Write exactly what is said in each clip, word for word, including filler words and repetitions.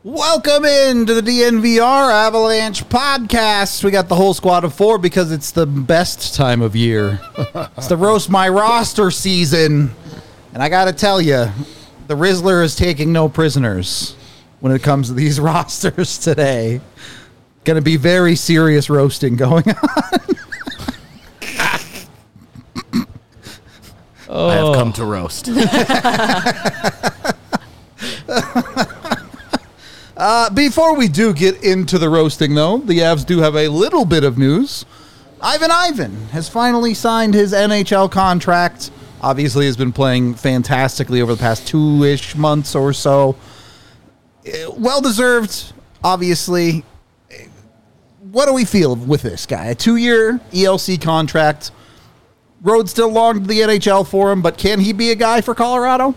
Welcome into the D N V R Avalanche podcast. We got the whole squad of four because it's the best time of year. It's the Roast My Roster season. And I got to tell you, the Rizzler is taking no prisoners when it comes to these rosters today. Going to be very serious roasting going on. Oh. I have come to roast. uh, before we do get into the roasting, though, the Avs do have a little bit of news. Ivan Ivan has finally signed his N H L contract. Obviously, has been playing fantastically over the past two-ish months or so. Well-deserved, obviously. What do we feel with this guy? A two-year E L C contract. Road still long to the N H L for him, but can he be a guy for Colorado?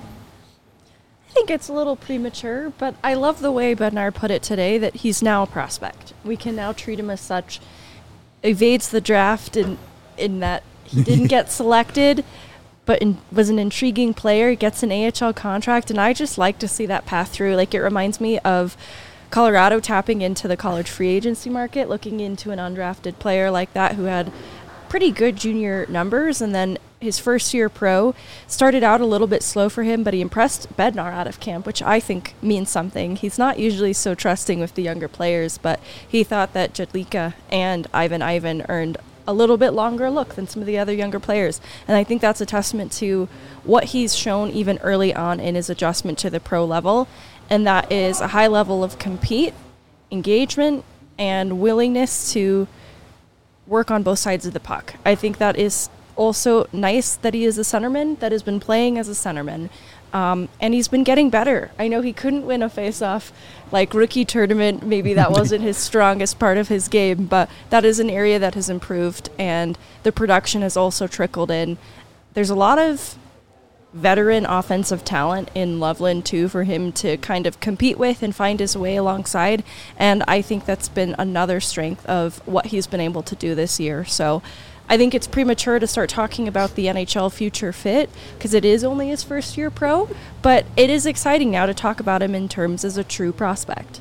I think it's a little premature, but I love the way Bednar put it today that he's now a prospect. We can now treat him as such. Evades the draft in, in that he didn't get selected, but in, was an intriguing player, gets an A H L contract, and I just like to see that path through. Like, it reminds me of Colorado tapping into the college free agency market, looking into an undrafted player like that who had pretty good junior numbers, and then his first year pro started out a little bit slow for him, but he impressed Bednar out of camp, which I think means something. He's not usually so trusting with the younger players, but he thought that Jedlicka and Ivan Ivan earned a little bit longer look than some of the other younger players, and I think that's a testament to what he's shown even early on in his adjustment to the pro level, and that is a high level of compete, engagement, and willingness to work on both sides of the puck. I think that is also nice that he is a centerman that has been playing as a centerman. Um, and he's been getting better. I know he couldn't win a face-off like rookie tournament. Maybe that wasn't his strongest part of his game, but that is an area that has improved, and the production has also trickled in. There's a lot of veteran offensive talent in Loveland too for him to kind of compete with and find his way alongside, and I think that's been another strength of what he's been able to do this year. So I think it's premature to start talking about the N H L future fit because it is only his first year pro, but it is exciting now to talk about him in terms as a true prospect.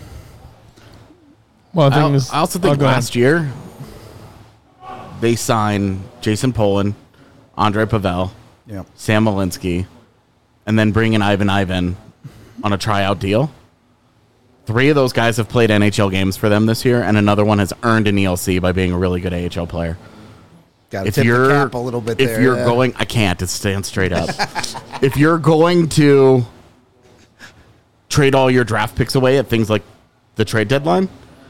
Well, I, I, think I also think oh, last year they signed Jason Poland, Andre Pavel, Yeah. Sam Malinsky, and then bring in Ivan Ivan on a tryout deal. Three of those guys have played N H L games for them this year, and another one has earned an E L C by being a really good A H L player. Got to tip the cap a little bit if there. you're yeah. going, I can't. It's stand straight up. If you're going to trade all your draft picks away at things like the trade deadline,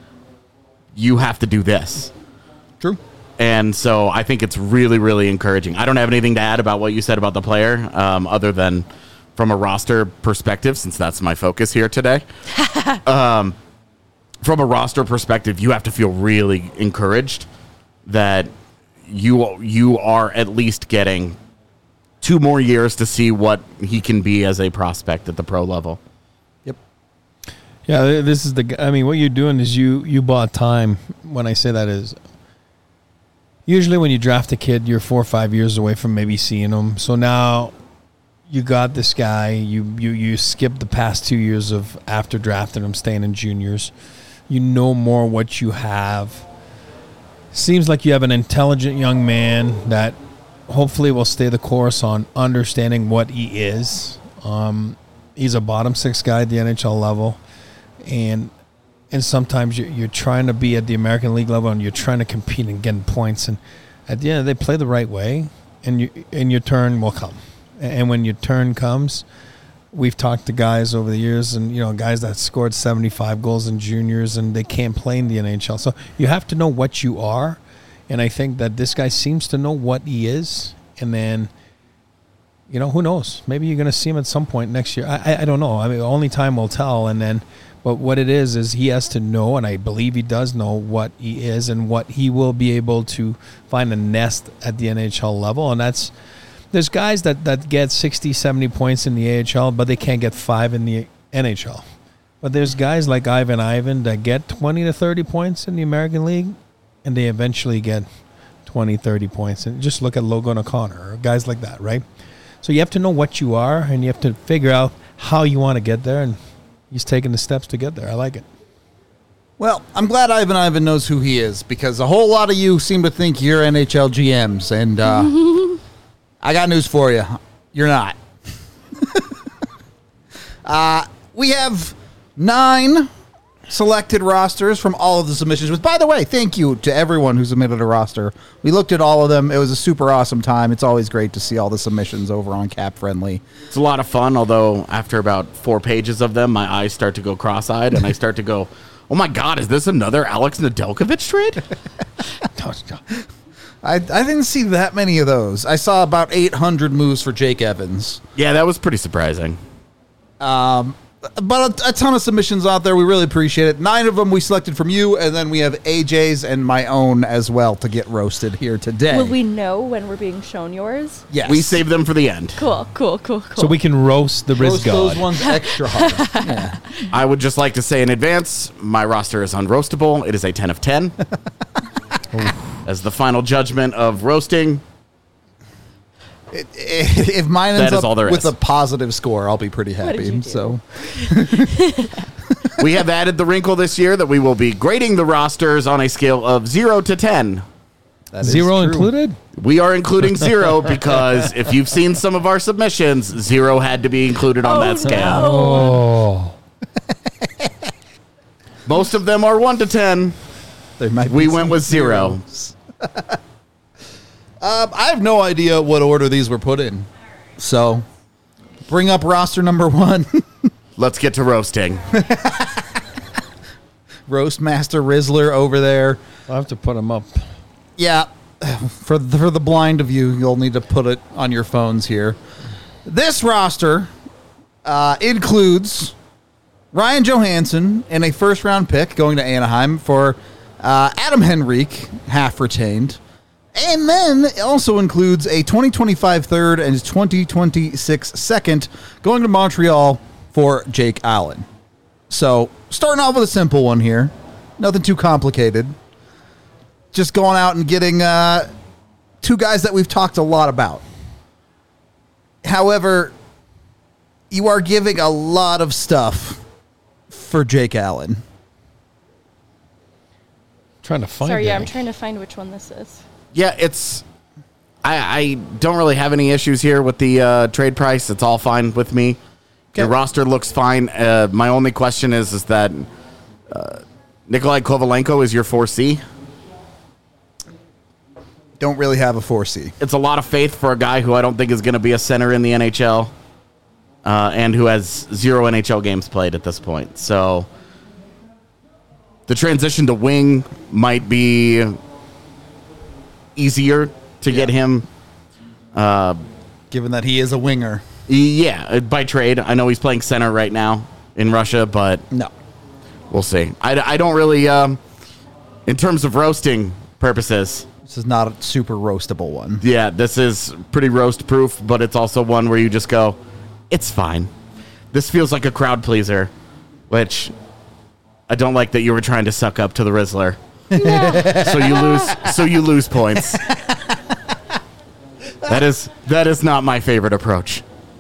you have to do this. True. And so I think it's really, really encouraging. I don't have anything to add about what you said about the player, um, other than from a roster perspective, since that's my focus here today. um, from a roster perspective, you have to feel really encouraged that you you are at least getting two more years to see what he can be as a prospect at the pro level. Yep. Yeah, this is the. I mean, what you're doing is you you bought time. When I say that is. Usually when you draft a kid, you're four or five years away from maybe seeing him. So now you got this guy. You you you skip the past two years of after drafting him, staying in juniors. You know more what you have. Seems like you have an intelligent young man that hopefully will stay the course on understanding what he is. Um, he's a bottom six guy at the N H L level. And And sometimes you're, you're trying to be at the American League level and you're trying to compete and getting points. And at the end, they play the right way, and you, and your turn will come. And when your turn comes, we've talked to guys over the years, and you know, guys that scored seventy-five goals in juniors, and they can't play in the N H L. So you have to know what you are, and I think that this guy seems to know what he is. And then, you know, who knows? Maybe you're going to see him at some point next year. I, I, I don't know. I mean, only time will tell. And then. But what it is, is he has to know, and I believe he does know what he is and what he will be able to find a nest at the N H L level. And that's, there's guys that, that get sixty, seventy points in the A H L, but they can't get five in the N H L. But there's guys like Ivan Ivan that get twenty to thirty points in the American League, and they eventually get twenty, thirty points. And just look at Logan O'Connor, or guys like that, right? So you have to know what you are, and you have to figure out how you want to get there. And he's taking the steps to get there. I like it. Well, I'm glad Ivan Ivan knows who he is, because a whole lot of you seem to think you're N H L G Ms, and uh, I got news for you. You're not. uh, we have nine selected rosters from all of the submissions. Which, by the way, thank you to everyone who submitted a roster. We looked at all of them. It was a super awesome time. It's always great to see all the submissions over on Cap Friendly. It's a lot of fun, although after about four pages of them, my eyes start to go cross-eyed, and I start to go, oh my God, is this another Alex Nedeljkovic trade? I, I didn't see that many of those. I saw about eight hundred moves for Jake Evans. Yeah, that was pretty surprising. Um, but a, a ton of submissions out there. We really appreciate it. Nine of them we selected from you, and then we have A J's and my own as well to get roasted here today. Will we know when we're being shown yours? Yes. We saved them for the end. Cool, cool, cool, cool. So we can roast the roast Riz those God. ones extra hard. Yeah. I would just like to say in advance, my roster is unroastable. It is a ten of ten. As the final judgment of roasting, It, it, if mine ends That is all up there with is. a positive score, I'll be pretty What did happy. you do? So we have added the wrinkle this year that we will be grading the rosters on a scale of zero to ten. that is Zero true. included? We are including zero because if you've seen some of our submissions, zero had to be included on Oh, that scale. no. Oh. Most of them are one to ten. There might We be went some with zero. zeros. um, I have no idea what order these were put in. So bring up roster number one. Let's get to roasting. Roast Master Rizzler over there. I'll have to put him up. Yeah, for the, for the blind of you, you'll need to put it on your phones here. This roster uh, includes Ryan Johansson and a first-round pick going to Anaheim for uh, Adam Henrique, half retained. And then it also includes a twenty twenty-five third and twenty twenty-six second going to Montreal for Jake Allen. So, starting off with a simple one here. Nothing too complicated. Just going out and getting uh, two guys that we've talked a lot about. However, you are giving a lot of stuff for Jake Allen. Trying to find Sorry, it. yeah, I'm trying to find which one this is. Yeah, it's. I, I don't really have any issues here with the uh, trade price. It's all fine with me. Your Okay. roster looks fine. Uh, my only question is is that uh, Nikolai Kovalenko is your four C. Don't really have a four C. It's a lot of faith for a guy who I don't think is going to be a center in the N H L, uh, and who has zero N H L games played at this point. So the transition to wing might be easier to get him. Uh, Given that he is a winger. yeah, by trade. I know he's playing center right now in Russia, but No. we'll see. I, I don't really, um, in terms of roasting purposes, This is not a super roastable one. yeah, this is pretty roast proof, but it's also one where you just go, it's fine. This feels like a crowd pleaser, which I don't like that you were trying to suck up to the Rizzler. so you lose so you lose points. That is that is not my favorite approach.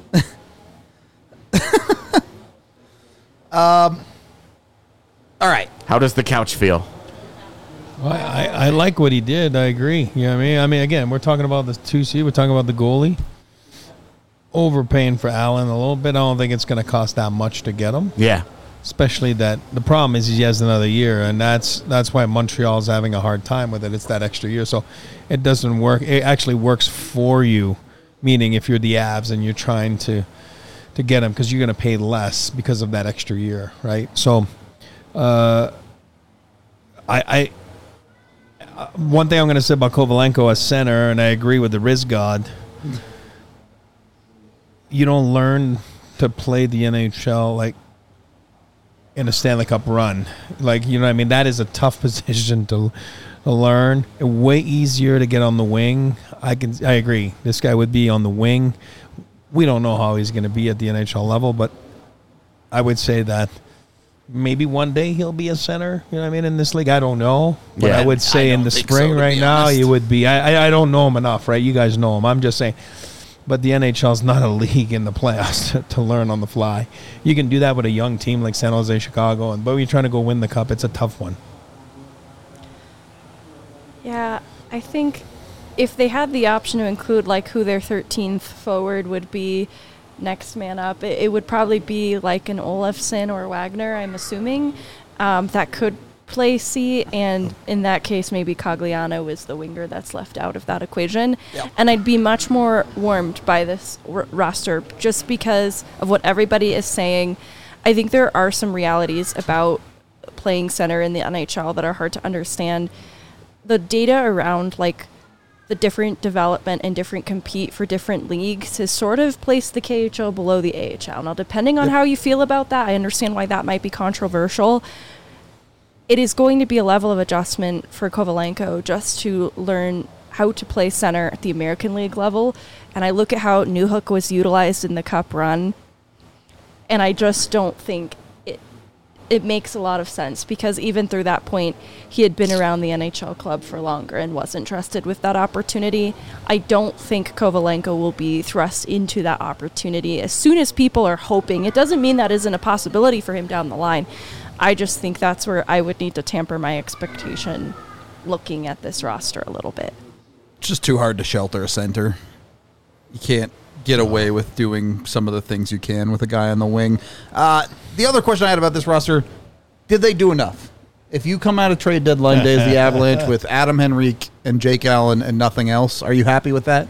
All right. How does the couch feel? Well, I, I like what he did. I agree. You know what I mean? I mean, again, we're talking about the two C. We're talking about the goalie. Overpaying for Allen a little bit. I don't think it's going to cost that much to get him. Yeah. Especially that the problem is he has another year, and that's that's why Montreal's having a hard time with it. It's that extra year, so it doesn't work. It actually works for you, meaning if you're the Avs and you're trying to to get him because you're going to pay less because of that extra year, right? So, uh, I, I uh, one thing I'm going to say about Kovalenko as center, and I agree with the Riz God. You don't learn to play the N H L like in a Stanley Cup run. Like, you know what I mean? That is a tough position to, to learn. Way easier to get on the wing. I can I agree. This guy would be on the wing. We don't know how he's going to be at the N H L level, but I would say that maybe one day he'll be a center, you know what I mean, in this league. I don't know. But Yeah, I would say I in don't the think spring so, to right be now, honest. he would be. I, I I don't know him enough, right? You guys know him. I'm just saying But the N H L is not a league in the playoffs to, to learn on the fly. You can do that with a young team like San Jose, Chicago, and but when you're trying to go win the cup, it's a tough one. Yeah, I think if they had the option to include like who their thirteenth forward would be next man up, it, it would probably be like an Olofsson or Wagner, I'm assuming, um, that could play C, and in that case maybe Cogliano is the winger that's left out of that equation. Yep. And I'd be much more warmed by this r- roster just because of what everybody is saying. I think there are some realities about playing center in the N H L that are hard to understand. The data around like the different development and different compete for different leagues has sort of placed the K H L below the A H L. Now, depending on Yep. how you feel about that, I understand why that might be controversial. It is going to be a level of adjustment for Kovalenko just to learn how to play center at the American League level. And I look at how Newhook was utilized in the Cup run, and I just don't think it it makes a lot of sense because even through that point, he had been around the N H L club for longer and wasn't trusted with that opportunity. I don't think Kovalenko will be thrust into that opportunity as soon as people are hoping. It doesn't mean that isn't a possibility for him down the line. I just think that's where I would need to tamper my expectation looking at this roster a little bit. It's just too hard to shelter a center. You can't get away with doing some of the things you can with a guy on the wing. Uh, the other question I had about this roster, did they do enough? If you come out of trade deadline day as the Avalanche with Adam Henrique and Jake Allen and nothing else, are you happy with that?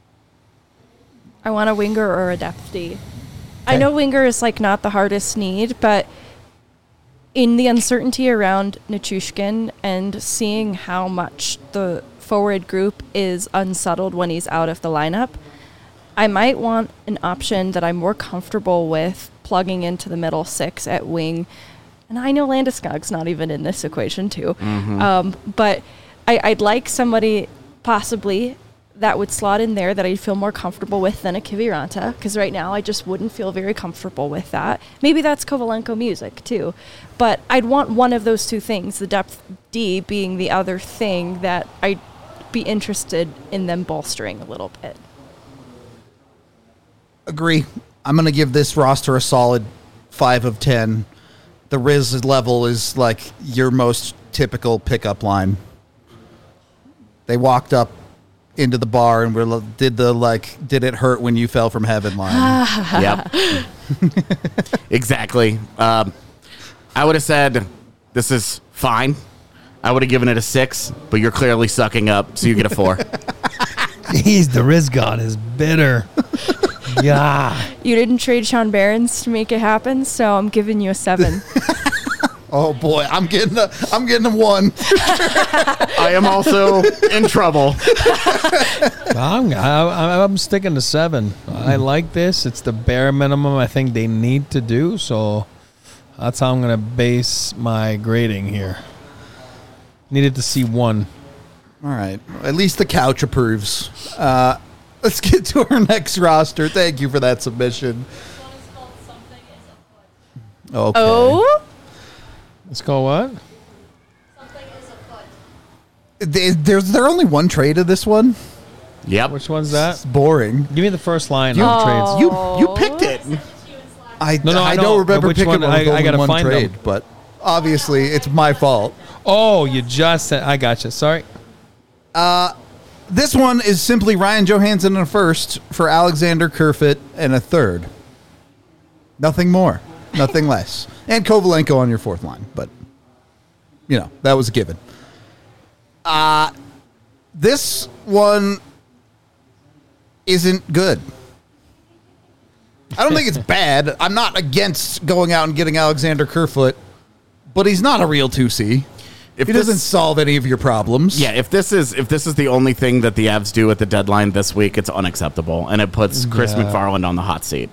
I want a winger or a depth D. I Okay. know winger is like not the hardest need, but in the uncertainty around Nichushkin and seeing how much the forward group is unsettled when he's out of the lineup, I might want an option that I'm more comfortable with plugging into the middle six at wing. And I know Landeskog's not even in this equation, too. Mm-hmm. Um, but I, I'd like somebody possibly that would slot in there that I'd feel more comfortable with than a Kiviranta, because right now I just wouldn't feel very comfortable with that. Maybe that's Kovalenko music, too. But I'd want one of those two things, the depth D being the other thing that I'd be interested in them bolstering a little bit. Agree. I'm going to give this roster a solid five of ten. The Riz level is like your most typical pickup line. They walked up into the bar and were did the like did it hurt when you fell from heaven line. Yep. Exactly. Um, I would have said this is fine. I would have given it a six, but you're clearly sucking up, so you get a four. Jeez, the Riz God is bitter. Yeah. You didn't trade Sean Barons to make it happen, so I'm giving you a seven. Oh boy, I'm getting a I'm getting a one. I am also in trouble. I'm, I, I'm sticking to seven. I like this. It's the bare minimum I think they need to do, so that's how I'm going to base my grading here. Needed to see one. All right. At least the couch approves. Uh, let's get to our next roster. Thank you for that submission. Okay. Oh? Let's go what? They- There's there only one trade of this one? Yep. Which one's that? It's boring. Give me the first line You- of trades. You you picked it. I, No, no, I I know. don't remember Which picking one? one. I- with I only gotta one find trade, them. but obviously it's my fault. Oh, you just said. I got you. Sorry. This one is simply Ryan Johansson in a first for Alexander Kerfoot and a third. Nothing more, nothing less, and Kovalenko on your fourth line. But you know that was a given. Uh this one isn't good. I don't think it's bad. I'm not against going out and getting Alexander Kerfoot, but he's not a real two C. If he this- doesn't solve any of your problems. Yeah, if this is if this is the only thing that the Avs do at the deadline this week, it's unacceptable, and it puts Chris Yeah. McFarland on the hot seat.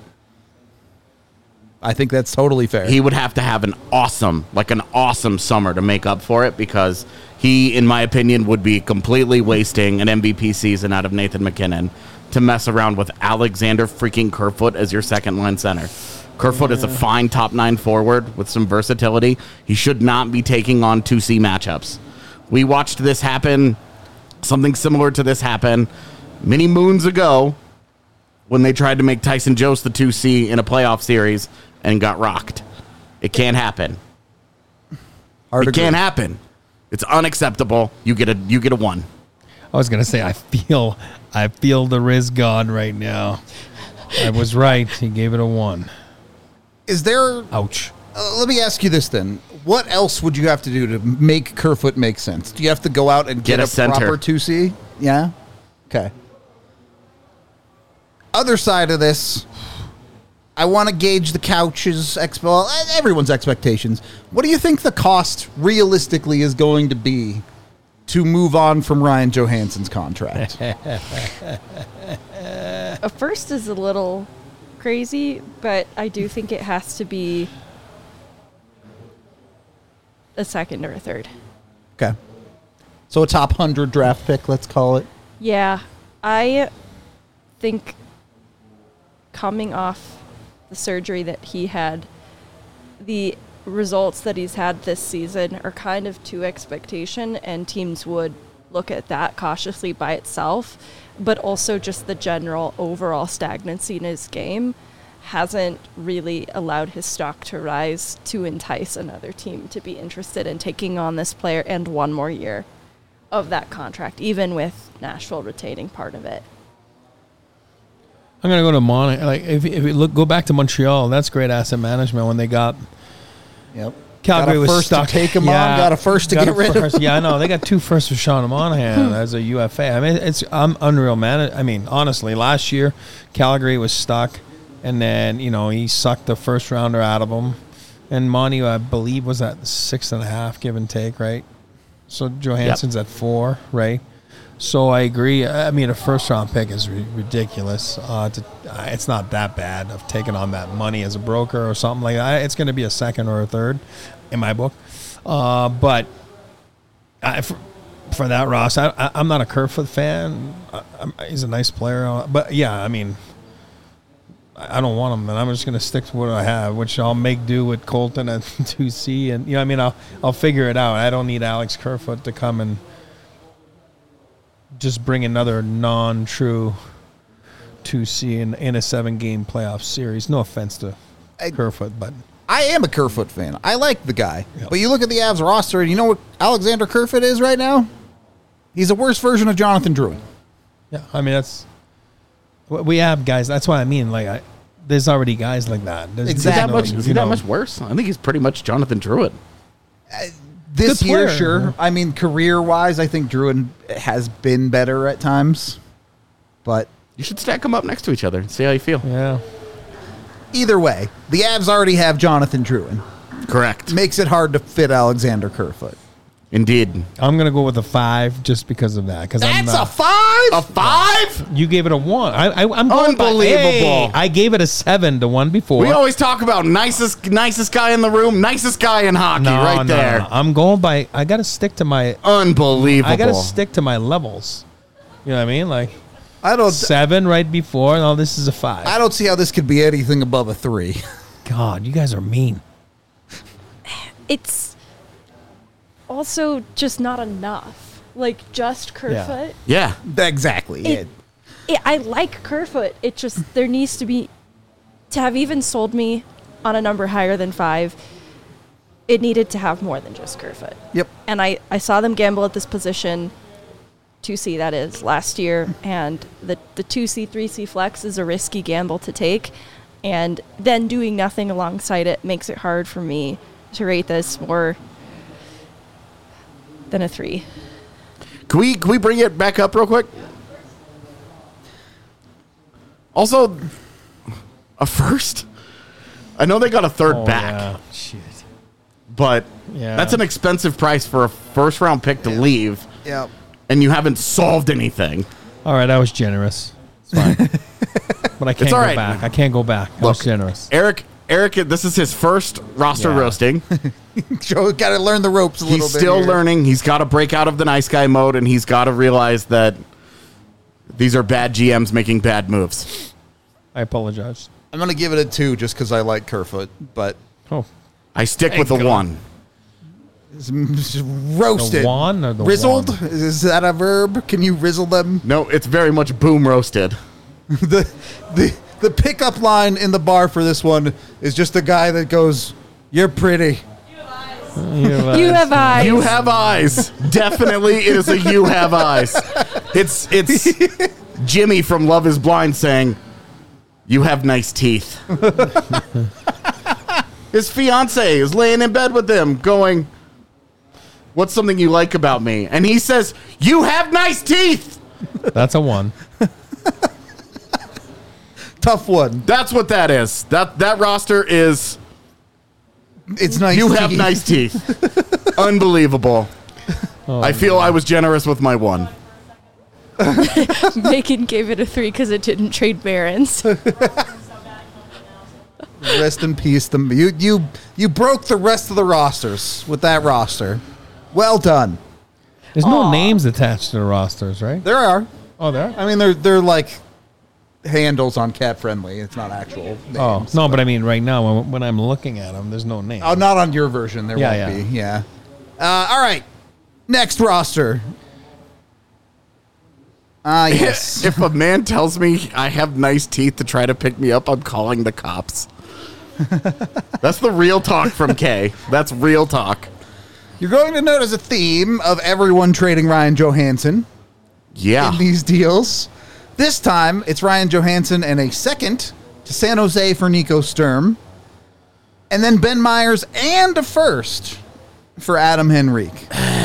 I think that's totally fair. He would have to have an awesome, like an awesome summer to make up for it, because he, in my opinion, would be completely wasting an M V P season out of Nathan McKinnon to mess around with Alexander freaking Kerfoot as your second line center. Kerfoot is a fine top nine forward with some versatility. He should not be taking on two C matchups. We watched this happen, something similar to this happen many moons ago when they tried to make Tyson Jost the two C in a playoff series and got rocked. It can't happen. Hard it agree. can't happen. It's unacceptable. You get a you get a one. I was gonna say I feel I feel the Riz God right now. I was right. He gave it a one. Is there... Ouch. Uh, let me ask you this then. What else would you have to do to make Kerfoot make sense? Do you have to go out and get, Get a a, center. proper two C? Yeah? Okay. Other side of this, I want to gauge the Couch's, exp- well, everyone's expectations. What do you think the cost realistically is going to be to move on from Ryan Johansson's contract? A first is a little crazy, but I do think it has to be a second or a third. Okay. So a top one hundred draft pick, let's call it. Yeah, I think coming off the surgery that he had, the results that he's had this season are kind of to expectation, and teams would look at that cautiously by itself, but also just the general overall stagnancy in his game hasn't really allowed his stock to rise to entice another team to be interested in taking on this player and one more year of that contract, even with Nashville retaining part of it. I'm gonna go to Mon. Like if if you look, go back to Montreal. That's great asset management when they got Yep. Calgary got a was first stuck. to take him on. Got a first to got get a rid first. of. Yeah, I know they got two firsts for Sean Monahan as a U F A. I mean, it's I'm unreal, man. I mean, honestly, last year Calgary was stuck, and then you know he sucked the first rounder out of them, and Monty, I believe, was at six and a half, give and take, right? So Johansson's yep. at four, right? So I agree. I mean, a first-round pick is r- ridiculous. Uh, to, uh, it's not that bad of taking on that money as a broker or something like that. It's going to be a second or a third in my book. Uh, but I, for, for that, Ross, I, I, I'm not a Kerfoot fan. I, I'm, he's a nice player. But, yeah, I mean, I don't want him, and I'm just going to stick to what I have, which I'll make do with Colton at two C. And, you know, I mean, I'll, I'll figure it out. I don't need Alex Kerfoot to come and just bring another non-true two C in, in a seven-game playoff series. No offense to I, Kerfoot, but... I am a Kerfoot fan. I like the guy. Yep. But you look at the Avs roster, and you know what Alexander Kerfoot is right now? He's a worse version of Jonathan Drouin. Yeah, I mean, that's... We have guys... That's what I mean. Like, I, there's already guys like that. There's, Exactly. Is he that much, you is he know, that much worse? I think he's pretty much Jonathan Druid. Uh, this Good year, player. sure. I mean, career-wise, I think Drouin has been better at times. But You should stack them up next to each other and see how you feel. Yeah. either way, the Avs already have Jonathan Drouin. Correct. Makes it hard to fit Alexander Kerfoot. Indeed. I'm going to go with a five just because of that. Cause I'm That's not, a five? A five? You gave it a one. I, I, I'm going by- Unbelievable. Hey, I gave it a seven to one before. We always talk about nicest nicest guy in the room, nicest guy in hockey, no, right no, there. no. I'm going by. I got to stick to my. Unbelievable. I got to stick to my levels. You know what I mean? Like I don't. seven right before. No, this is a five. I don't see how this could be anything above a three. God, you guys are mean. It's also just not enough. Like, just Kerfoot. Yeah. Exactly. It, it, I like Kerfoot. It just, there needs to be, to have even sold me on a number higher than five, it needed to have more than just Kerfoot. Yep. And I, I saw them gamble at this position, two C that is, last year, and the, the two C, three C flex is a risky gamble to take, and then doing nothing alongside it makes it hard for me to rate this more than a three. Can we can we bring it back up real quick? Also, a first. I know they got a third Oh, back, yeah. Shit. but Yeah. that's an expensive price for a first round pick to Yeah. leave, Yep. and you haven't solved anything. All right, I was generous. It's fine. But I can't all go right. back. I can't go back. I was Look, generous. Eric, Eric, this is his first roster Yeah. roasting. Joe got to learn the ropes a little He's bit. still here. learning. He's got to break out of the nice guy mode, and he's got to realize that these are bad G Ms making bad moves. I apologize. I'm going to give it a two just because I like Kerfoot, but Oh, I stick Thank with a God. one. it's just roasted. The wan or the Rizzled? wan? Is that a verb? Can you rizzle them? No, it's very much boom roasted. the the the pickup line in the bar for this one is just a guy that goes, "You're pretty." You have You have eyes. You have eyes. Definitely, it is a you have eyes. It's it's Jimmy from Love Is Blind saying, "You have nice teeth." His fiance is laying in bed with him, going, "What's something you like about me?" And he says, "You have nice teeth." That's a one. Tough one. That's what that is. That that roster is. It's nice. You teeth. have nice teeth. Unbelievable. Oh, I feel I was generous with my one. Macon gave it a three because it didn't trade Barons. Rest in peace. The you you you broke the rest of the rosters with that roster. Well done. There's no Aw. names attached to the rosters, right? There are. Oh, there. I mean, they're they're like handles on Cat Friendly. It's not actual names. Oh no, but I mean, right now when, when I'm looking at them, there's no name. Oh, not on your version. There Yeah, won't yeah. be. Yeah. Uh, all right. Next roster. Ah, yes. If a man tells me I have nice teeth to try to pick me up, I'm calling the cops. That's the real talk from Kay. That's real talk. You're going to notice a theme of everyone trading Ryan Johansson Yeah. in these deals. This time, it's Ryan Johansson and a second to San Jose for Nico Sturm. And then Ben Myers and a first for Adam Henrique.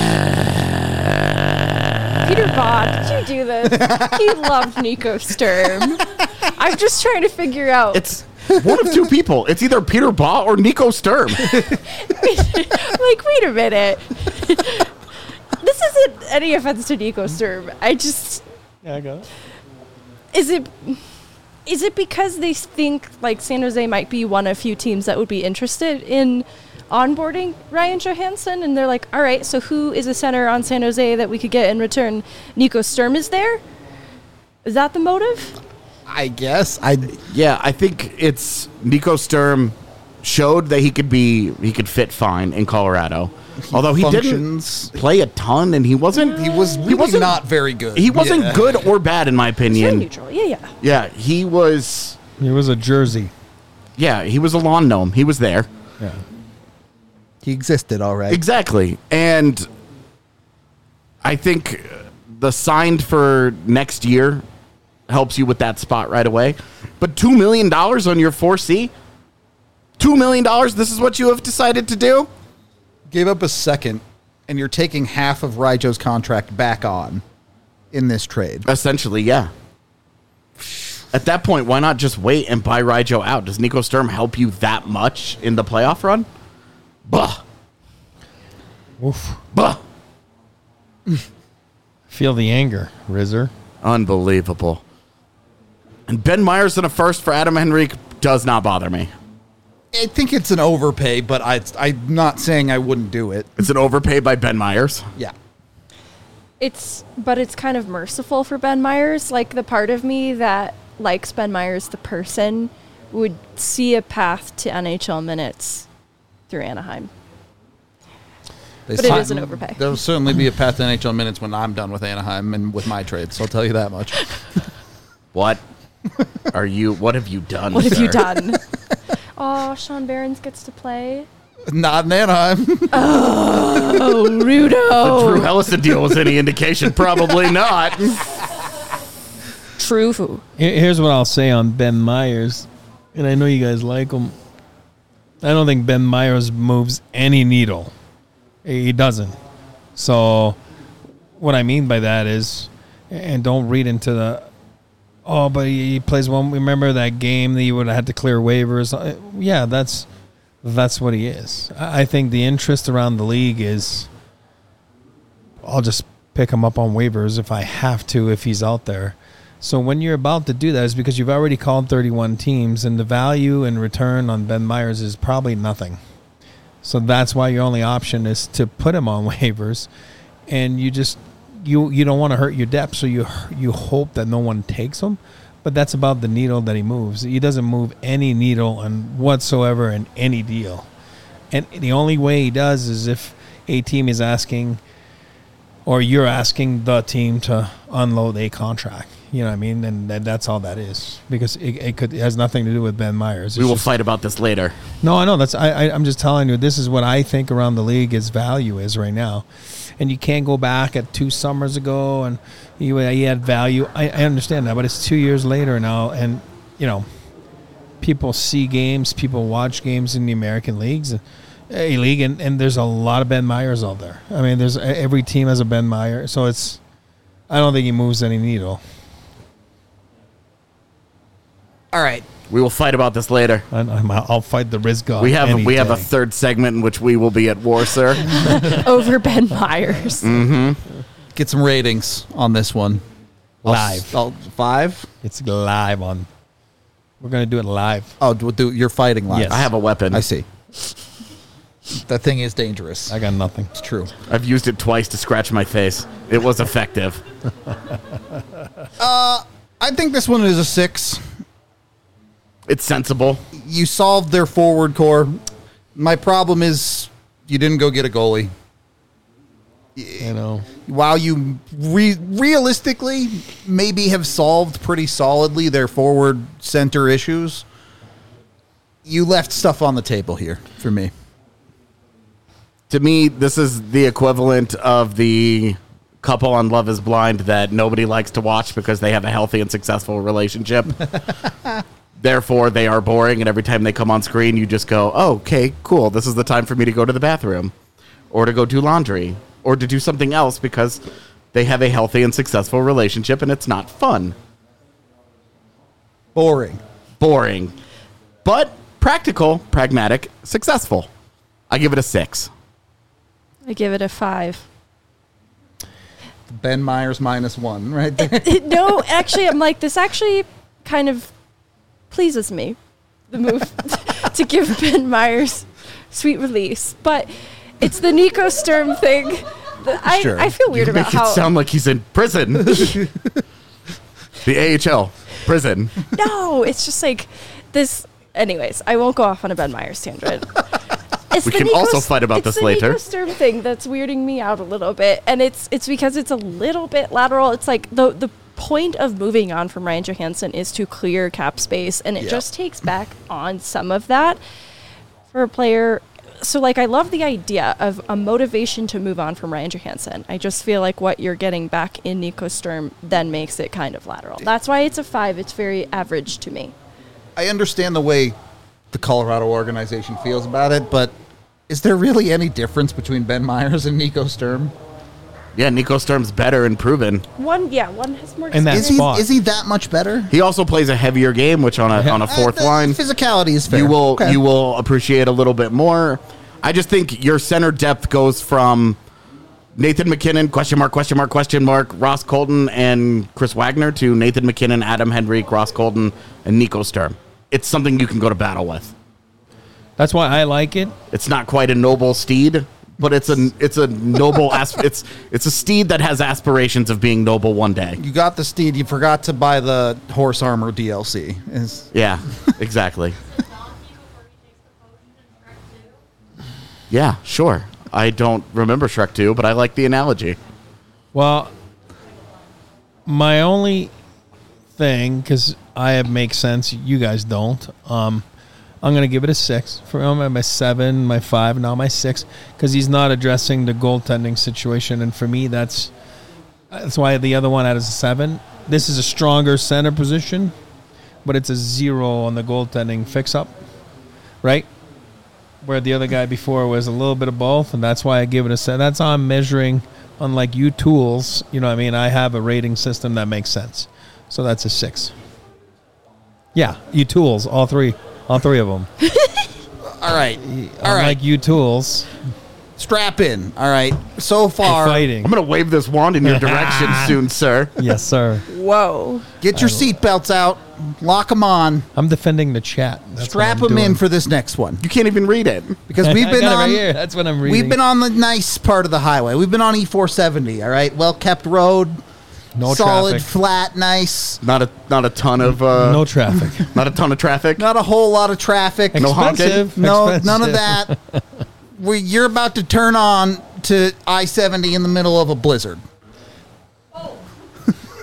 Peter Bob, did you do this? He loved Nico Sturm. I'm just trying to figure out. It's one of two people. It's either Peter Baugh or Nico Sturm. like, wait a minute. This isn't any offense to Nico Sturm. I just Yeah, I got it. is it is it because they think like San Jose might be one of few teams that would be interested in onboarding Ryan Johansson, and they're like, all right, so who is a center on San Jose that we could get in return? Nico Sturm is there? Is that the motive? I guess. I Yeah, I think it's Nico Sturm showed that he could be he could fit fine in Colorado. Although he functions. didn't play a ton and he wasn't He was really wasn't- not very good. he wasn't Yeah. good or bad in my It's very opinion. neutral. Yeah, yeah. Yeah, he was It was a jersey. yeah, he was a lawn gnome. He was there. Yeah. He existed, all right. Exactly. And I think the signed for next year helps you with that spot right away. But two million dollars on your four C? two million dollars, this is what you have decided to do? Gave up a second, and you're taking half of Rijo's contract back on in this trade. Essentially, yeah. At that point, why not just wait and buy Rijo out? Does Nico Sturm help you that much in the playoff run? Bah. Oof. Bah. Feel the anger, Rizzer. Unbelievable. And Ben Myers in a first for Adam Henrique does not bother me. I think it's an overpay, but I, I'm not saying I wouldn't do it. It's an overpay by Ben Myers. Yeah. It's but it's kind of merciful for Ben Myers. Like the part of me that likes Ben Myers the person would see a path to N H L minutes through Anaheim. They But it si- is an overpay. There will certainly be a path to N H L minutes when I'm done with Anaheim and with my trades. I'll tell you that much. What are you? What have you done? What have you sir? done? Oh, Sean Barons gets to play. Not in Anaheim. Oh, The Rudo. Drew Hellison deal was any indication? Probably not. True. Here- Here's what I'll say on Ben Myers, and I know you guys like him. I don't think Ben Myers moves any needle. He doesn't. So, what I mean by that is, and don't read into the, oh, but he, he plays one. Remember that game that you would have had to clear waivers? Uh, Yeah, that's that's what he is. I I think the interest around the league is, I'll just pick him up on waivers if I have to, if he's out there. So when you're about to do that, is because you've already called thirty-one teams, and the value and return on Ben Myers is probably nothing. So that's why your only option is to put him on waivers, and you just you you don't want to hurt your depth, so you you hope that no one takes him. But that's about the needle that he moves. He doesn't move any needle on whatsoever in any deal, and the only way he does is if a team is asking, or you're asking the team to unload a contract. You know what I mean? And, and that's all that is, because it, it could it has nothing to do with Ben Myers. It's We will just- fight about this later. No, I know that's. I, I I'm just telling you. This is what I think around the league its value is right now, and you can't go back at two summers ago and you he had value. I, I understand that, but it's two years later now, and you know, people see games, people watch games in the American leagues, a league, and, and there's a lot of Ben Myers out there. I mean, there's every team has a Ben Myers, so it's. I don't think he moves any needle. All right. We will fight about this later. I, I'm, I'll fight the Riz God. We have any we have a day. third segment in which we will be at war, sir. Over Ben Myers. Get some ratings on this one. I'll Live. s- I'll- five? It's live on. We're gonna do it live. Oh, do, do, you're fighting live. Yes. I have a weapon. I see. That thing is dangerous. I got nothing. It's true. I've used it twice to scratch my face. It was effective. I think this one is a six. It's sensible. You solved their forward core. My problem is you didn't go get a goalie. You know. While you re- realistically maybe have solved pretty solidly their forward center issues, you left stuff on the table here for me. To me, this is the equivalent of the couple on Love is Blind that nobody likes to watch because they have a healthy and successful relationship. Therefore, they are boring, and every time they come on screen, you just go, oh, okay, cool. This is the time for me to go to the bathroom or to go do laundry or to do something else because they have a healthy and successful relationship, and it's not fun. Boring. Boring. But practical, pragmatic, successful. I give it a six. I give it a five. Ben Myers minus one right there. No, actually, I'm like, this actually kind of pleases me, the move to give Ben Myers sweet release. But it's the Nico Sturm thing. that I, Sure. I feel weird You about make it how. sound like he's in prison. The A H L prison. No, it's just like this. Anyways, I won't go off on a Ben Myers tangent. It's We the can Nico- also fight about it's this the later. Nico Sturm thing that's weirding me out a little bit, and it's it's because it's a little bit lateral. It's like the the point of moving on from Ryan Johansson is to clear cap space, and it Yeah. just takes back on some of that for a player. So, like, I love the idea of a motivation to move on from Ryan Johansson. I just feel like what you're getting back in Nico Sturm then makes it kind of lateral. That's why it's a five. It's very average to me. I understand the way the Colorado organization feels about it, but is there really any difference between Ben Myers and Nico Sturm? Yeah, Nico Sturm's better and proven. One, yeah, one has more And that Is he, spot. is he that much better? He also plays a heavier game, which on a Yeah. on a fourth Uh, the line physicality is fair. you will Okay. you will appreciate a little bit more. I just think your center depth goes from Nathan McKinnon question mark question mark question mark Ross Colton and Chris Wagner to Nathan McKinnon, Adam Henrique, Ross Colton, and Nico Sturm. It's something you can go to battle with. That's why I like it. It's not quite a noble steed, but it's a it's a noble asp- it's it's a steed that has aspirations of being noble one day. You got the steed. You forgot to buy the horse armor D L C. Is Yeah, exactly. Yeah, sure. I don't remember Shrek two, but I like the analogy. Well, my only thing, because I have make sense, you guys don't. Um, I'm gonna give it a six for him. My seven, my five, now my six, because he's not addressing the goaltending situation, and for me, that's that's why the other one had is a seven. This is a stronger center position, but it's a zero on the goaltending fix-up, right? Where the other guy before was a little bit of both, and that's why I give it a seven. That's how I'm measuring. Unlike you tools, you know what I mean? I have a rating system that makes sense. So that's a six. Yeah, you tools, all three. All three of them. all right. All right. Unlike you tools, Strap in. All right. So far, fighting. I'm going to wave this wand in your direction soon, sir. Yes, sir. Whoa. get your seatbelts out. Lock them on. I'm defending the chat. That's Strap what I'm them in doing. for this next one You can't even read it. because we've I been got it on. right here. That's what I'm reading. We've been on the nice part of the highway. We've been on E four seventy. All right. Well kept road. No solid, traffic. flat, nice. Not a not a ton of uh, No traffic. not a ton of traffic. Not a whole lot of traffic. No honking? Expensive. No, Expensive. none of that. we you're about to turn on to I seventy in the middle of a blizzard.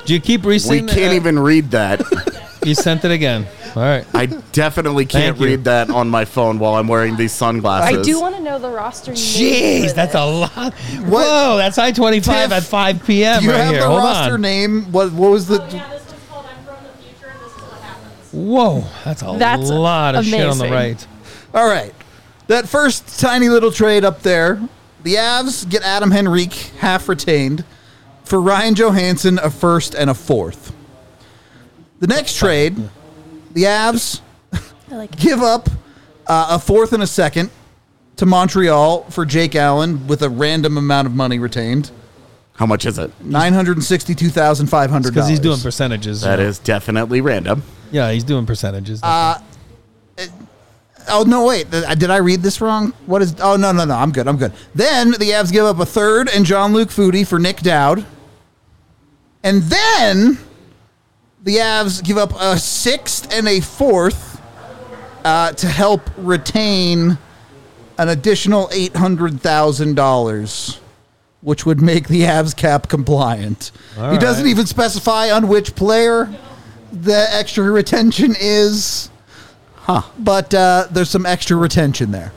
Do you keep We resending? can't uh, even read that. You sent it again. All right. I definitely can't Thank you. read that on my phone while I'm wearing these sunglasses. I do want to know the roster. name Jeez, for that's this. a lot. Whoa, that's I twenty-five Tiff, at five p.m. Do you right have here. the Hold roster on. name? What what was the? Oh, yeah, this one's called I'm from the future, and this is what happens. Whoa, that's a That's lot of shit on the amazing. right. All right, that first tiny little trade up there. The Avs get Adam Henrique half retained for Ryan Johansson, a first and a fourth. The next trade, the Avs I like it. give up uh, a fourth and a second to Montreal for Jake Allen with a random amount of money retained, How much is it? nine hundred sixty-two thousand five hundred Because dollars. he's doing percentages. That you know. is definitely random. Yeah, he's doing percentages. Uh, Oh, no, wait. Th- Did I read this wrong? What is... Oh, no, no, no. I'm good. I'm good. Then the Avs give up a third and Jean-Luc Foudy for Nick Dowd. And then the Avs give up a sixth and a fourth uh, to help retain an additional eight hundred thousand dollars, which would make the Avs cap compliant. All he doesn't right. even specify on which player the extra retention is. Huh. But uh, there's some extra retention there.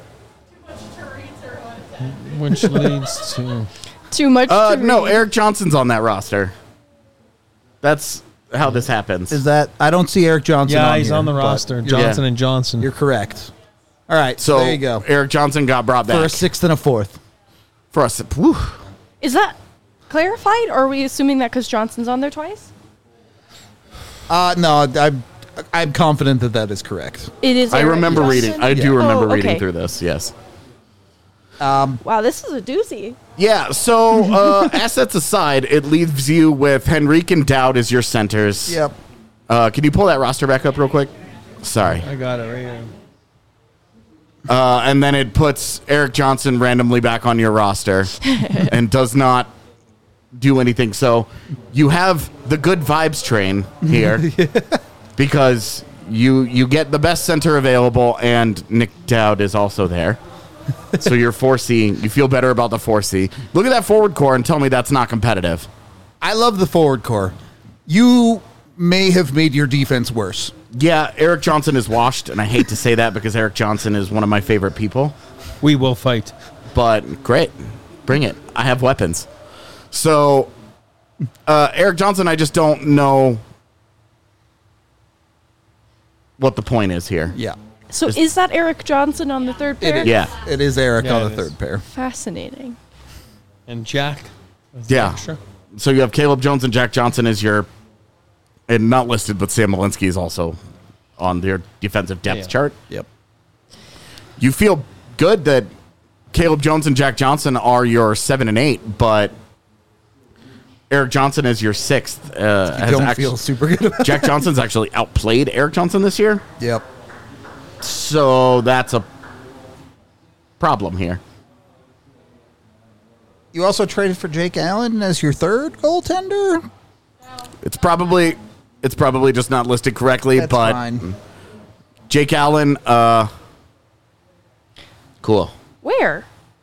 which leads to Too much. Uh, to no, read. Eric Johnson's on that roster. That's how this happens. Is that I don't see Eric Johnson. yeah, on he's here, on the but roster. You're, Johnson and Johnson. you're correct. All right, so there you go Eric Johnson got brought for back a sixth and a fourth. for us. Whew. Is that clarified, or are we assuming that because Johnson's on there twice? Uh, no, I'm I'm confident that that is correct. It is. I Eric remember Johnson? reading. I do Yeah. remember Oh, reading okay. through this. Yes. Wow, this is a doozy. Yeah. So uh, assets aside, it leaves you with Henrique and Dowd as your centers. Yep. Uh, can you pull that roster back up real quick? Sorry. I got it right here. Uh, and then it puts Eric Johnson randomly back on your roster and does not do anything. So you have the good vibes train here because you you get the best center available, and Nick Dowd is also there. So you're four C. You feel better about the four C. Look at that forward core and tell me that's not competitive. I love the forward core. You may have made your defense worse. Yeah, Eric Johnson is washed, and I hate to say that because Eric Johnson is one of my favorite people. We will fight. But great, bring it. I have weapons. So, uh, Eric Johnson, I just don't know what the point is here. Yeah, So is that Eric Johnson on the third it pair? is. Yeah. It is Eric Yeah, on it the is. third pair. Fascinating. And Jack. is the Yeah. extra. So you have Caleb Jones and Jack Johnson as your, and not listed, but Sam Malinsky is also on their defensive depth Yeah. chart. Yep. You feel good that Caleb Jones and Jack Johnson are your seven and eight, but Eric Johnson is your sixth. Uh, I has don't actu- feel super good about Jack Johnson's actually outplayed Eric Johnson this year. Yep. So that's a problem here. You also traded for Jake Allen as your third goaltender. It's probably it's probably just not listed correctly, That's but fine. Jake Allen, uh, cool. Where?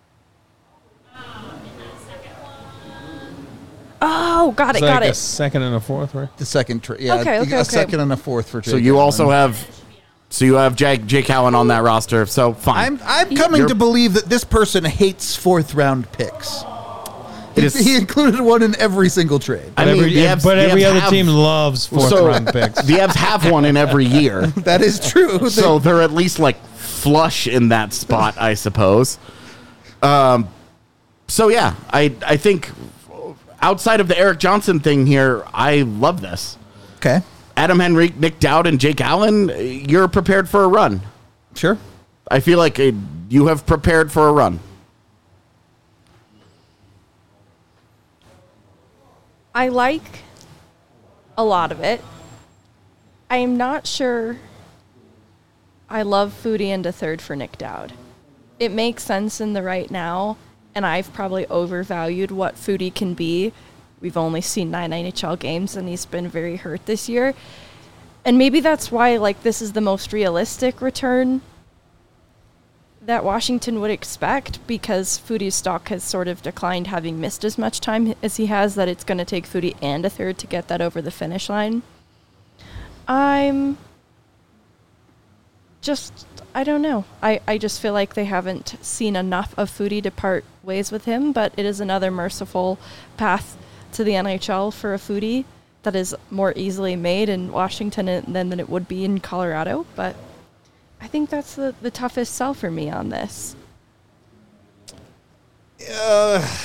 Oh, got It's it, got like a it. second and a fourth, right? The second trade. Yeah, Okay, a okay, okay. second and a fourth for Jake. So you Allen. also have, so you have Jake Jake Allen on that roster. So fine. I'm I'm coming You're- to believe that this person hates fourth round picks. It He, is- he included one in every single trade. I But mean, every, the Avs- but the every Avs other have- team loves fourth so round picks. the Avs have one in every year, That is true. so they're at least like flush in that spot, I suppose. Um, so yeah, I I think outside of the Eric Johnson thing here, I love this. Okay, Adam Henrique, Nick Dowd, and Jake Allen, you're prepared for a run. sure. I feel like uh, you have prepared for a run. I like a lot of it. I am not sure I love Foodie into third for Nick Dowd. It makes sense in the right now, and I've probably overvalued what Foodie can be. We've only seen nine N H L games, and he's been very hurt this year. And maybe that's why, like, this is the most realistic return that Washington would expect, because Foodie's stock has sort of declined, having missed as much time as he has, that it's going to take Foodie and a third to get that over the finish line. I'm just, I don't know. I, I just feel like they haven't seen enough of Foodie to part ways with him, but it is another merciful path to the N H L for a Foodie that is more easily made in Washington than, than it would be in Colorado. But I think that's the, the toughest sell for me on this. Uh,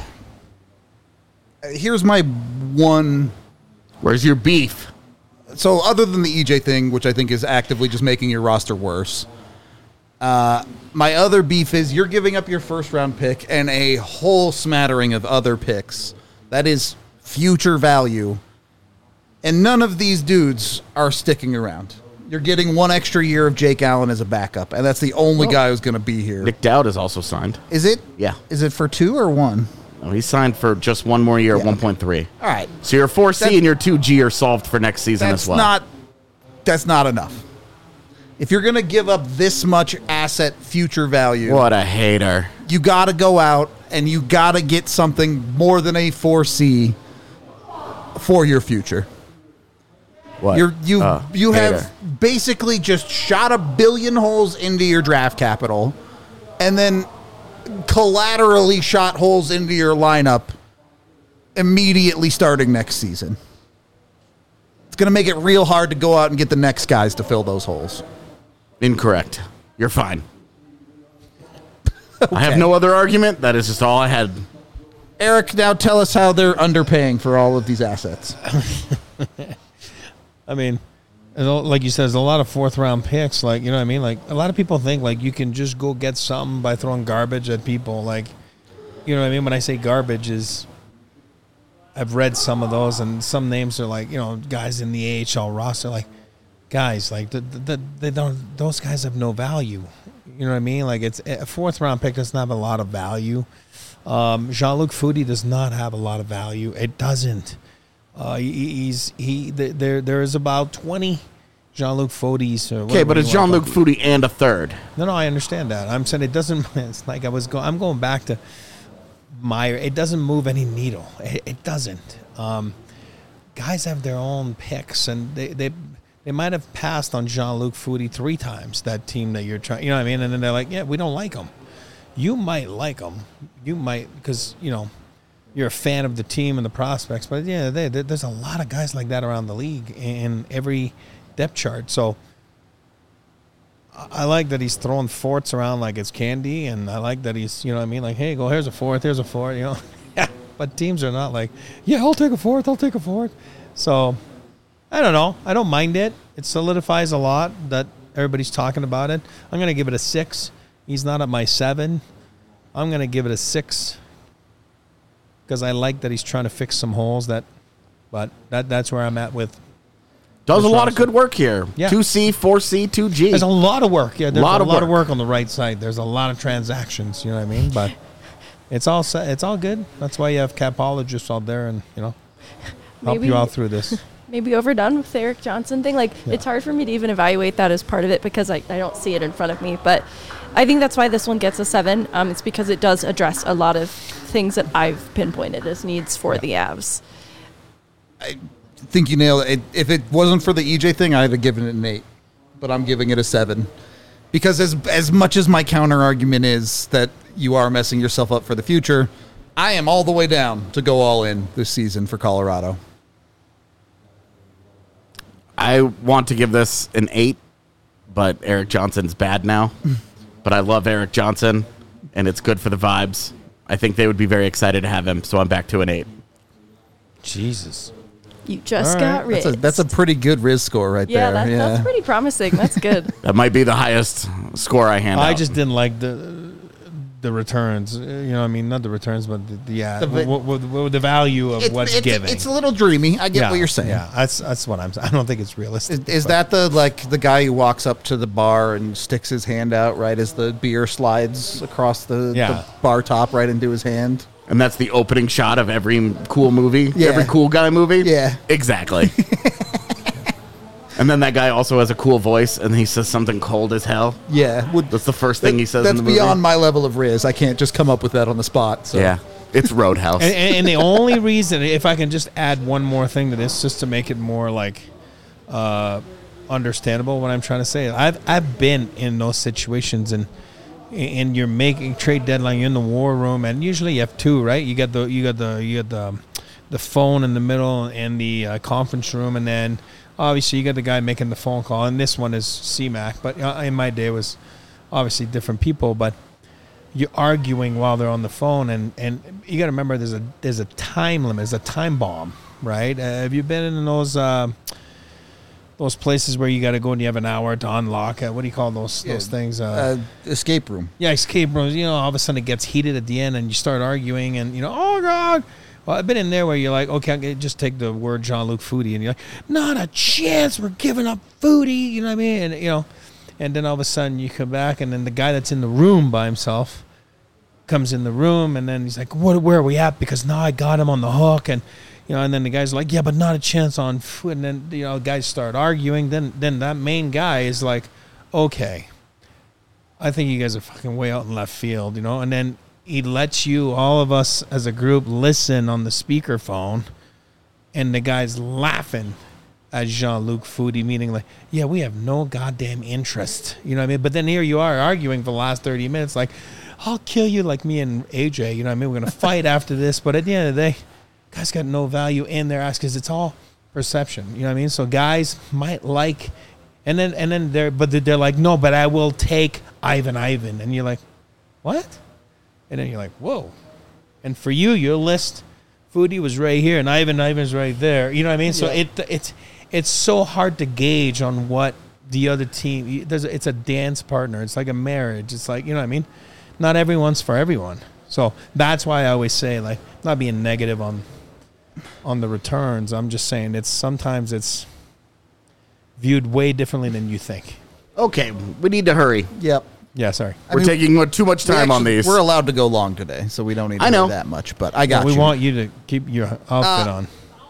here's my one. Where's your beef? So other than the E J thing, which I think is actively just making your roster worse, uh, my other beef is you're giving up your first round pick and a whole smattering of other picks. That is future value. And none of these dudes are sticking around. You're getting one extra year of Jake Allen as a backup, and that's the only Well, guy who's going to be here. Nick Dowd is also signed. Is it? Yeah. Is it for two or one? No, he's signed for just one more year at Yeah. one point three. All right. So your four C That's- and your two G are solved for next season That's as well. not. That's not enough. If you're going to give up this much asset future value, What a hater. you got to go out and you got to get something more than a four C for your future. What? You're, you Uh, you hater. have basically just shot a billion holes into your draft capital, and then collaterally shot holes into your lineup immediately starting next season. It's going to make it real hard to go out and get the next guys to fill those holes. Incorrect. You're fine. I have Okay. no other argument. That is just all I had. Eric, now tell us how they're underpaying for all of these assets. I mean, there's a- like you said, there's a lot of fourth round picks. Like, you know what I mean? Like, a lot of people think like you can just go get something by throwing garbage at people. Like, you know what I mean? When I say garbage, is I've read some of those, and some names are like, you know, guys in the A H L roster. Like, guys, like the, the, they don't. Those guys have no value. You know what I mean? Like, it's a fourth round pick doesn't have a lot of value. Um, Jean-Luc Foodie does not have a lot of value. It doesn't. Uh, he, he's he. th- There there is about twenty Jean-Luc Fodies. or Okay, whatever but you it's wanna Jean-Luc call it. Foodie and a third. No, no, I understand that. I'm saying it doesn't. It's like I was going. I'm going back to Meyer. It doesn't move any needle. It, it doesn't. Um, guys have their own picks, and they they they might have passed on Jean-Luc Foodie three times. That team that you're trying. You know what I mean? And then they're like, yeah, we don't like him. You might like him. You might because you know. You're a fan of the team and the prospects, but yeah, they, they, there's a lot of guys like that around the league in every depth chart. So I, I like that he's throwing forts around like it's candy, and I like that he's, you know what I mean, like, hey, go, here's a fourth, here's a fourth, you know. But teams are not like, yeah, I'll take a fourth, I'll take a fourth. So I don't know. I don't mind it. It solidifies a lot that everybody's talking about it. I'm going to give it a six. He's not at my seven. I'm going to give it a six. Because I like that he's trying to fix some holes. That, but that that's where I'm at with. Does a Chris lot of Russell. good work here. Yeah. two C, four C, two G. There's a lot of work. Yeah, there's Lot a of lot of work. work on the right side. There's a lot of transactions. You know what I mean? But it's all set. It's all good. That's why you have capologists out there, and you know, help Maybe- you out through this. Maybe overdone with the Eric Johnson thing. Like, Yeah. it's hard for me to even evaluate that as part of it because I, I don't see it in front of me. But I think that's why this one gets a seven. Um, it's because it does address a lot of things that I've pinpointed as needs for Yeah. the Avs. I think you nailed it. If it wasn't for the E J thing, I'd have given it an eight, but I'm giving it a seven. Because as as much as my counter argument is that you are messing yourself up for the future, I am all the way down to go all in this season for Colorado. I want to give this an eight, but Eric Johnson's bad now. But I love Eric Johnson, and it's good for the vibes. I think they would be very excited to have him, so I'm back to an eight. Jesus. You just All got right. rid. That's a, that's a pretty good Riz score right yeah, there. that, that's pretty promising. That's good. That might be the highest score I hand I out. just didn't like the the returns. uh, You know, what I mean, not the returns, but the, the yeah, The va- what, what, what, the value of It- what's it's, giving. it's a little dreamy. I get yeah, what you're saying. Yeah, that's that's what I'm saying. I don't think it's realistic. Is, is but- that the like the guy who walks up to the bar and sticks his hand out right as the beer slides across the, Yeah. the bar top right into his hand? and that's the opening shot of every cool movie, Yeah. every cool guy movie. Yeah. Exactly. And then that guy also has a cool voice, and he says something cold as hell. Yeah, would, That's the first thing he says That's in the movie. beyond my level of Riz. I can't just come up with that on the spot. So. Yeah, it's Roadhouse. And, and, and the only reason, if I can just add one more thing to this, just to make it more like uh, understandable, what I'm trying to say, I've I've been in those situations, and and you're making trade deadline, you're in the war room, and usually you have two, right? You got the you got the you got the the phone in the middle and the uh, conference room, and then obviously you got the guy making the phone call, and this one is C MAC, but uh, in my day it was obviously different people, but you're arguing while they're on the phone, and, and you got to remember there's a there's a time limit, there's a time bomb, right? Uh, have you been in those uh, those places where you got to go and you have an hour to unlock? Uh, what do you call those Yeah, those things? Uh, Uh, escape room. yeah, escape rooms. You know, all of a sudden it gets heated at the end, and you start arguing, and you know, oh god. Well, I've been in there where you're like, okay, I'll just take the word Jean-Luc Foodie, and you're like, not a chance, we're giving up Foodie, you know what I mean? And you know, and then all of a sudden you come back, and then the guy that's in the room by himself comes in the room, and then he's like, what, where are we at? Because now I got him on the hook, and you know, and then the guy's like, yeah, but not a chance on food. And then you know, guys start arguing. Then then that main guy is like, okay, I think you guys are fucking way out in left field, you know. And then he lets you, all of us as a group, listen on the speakerphone, and the guy's laughing at Jean-Luc Foodie, meaning like, yeah, we have no goddamn interest, you know what I mean? But then here you are arguing for the last thirty minutes, like, I'll kill you, like me and A J, you know what I mean? We're going to fight after this, but at the end of the day, guys got no value in their ass because it's all perception, you know what I mean? So guys might like, and then and then they're, but they're like, no, but I will take Ivan Ivan. And you're like, what? And then you're like, whoa. And for you, your list, Foodie was right here, and Ivan Ivan's right there. You know what I mean? So Yeah. it it's it's so hard to gauge on what the other team. There's it's a dance partner. It's like a marriage. It's like, you know what I mean? Not everyone's for everyone. So that's why I always say, like, not being negative on on the returns. I'm just saying it's sometimes it's viewed way differently than you think. Okay, we need to hurry. Yep. Yeah, sorry. I We're mean, taking uh, too much We time on actually- these. We're allowed to go long today, so we don't need to I know. do that much. But I got we you. want you to keep your outfit Uh, on.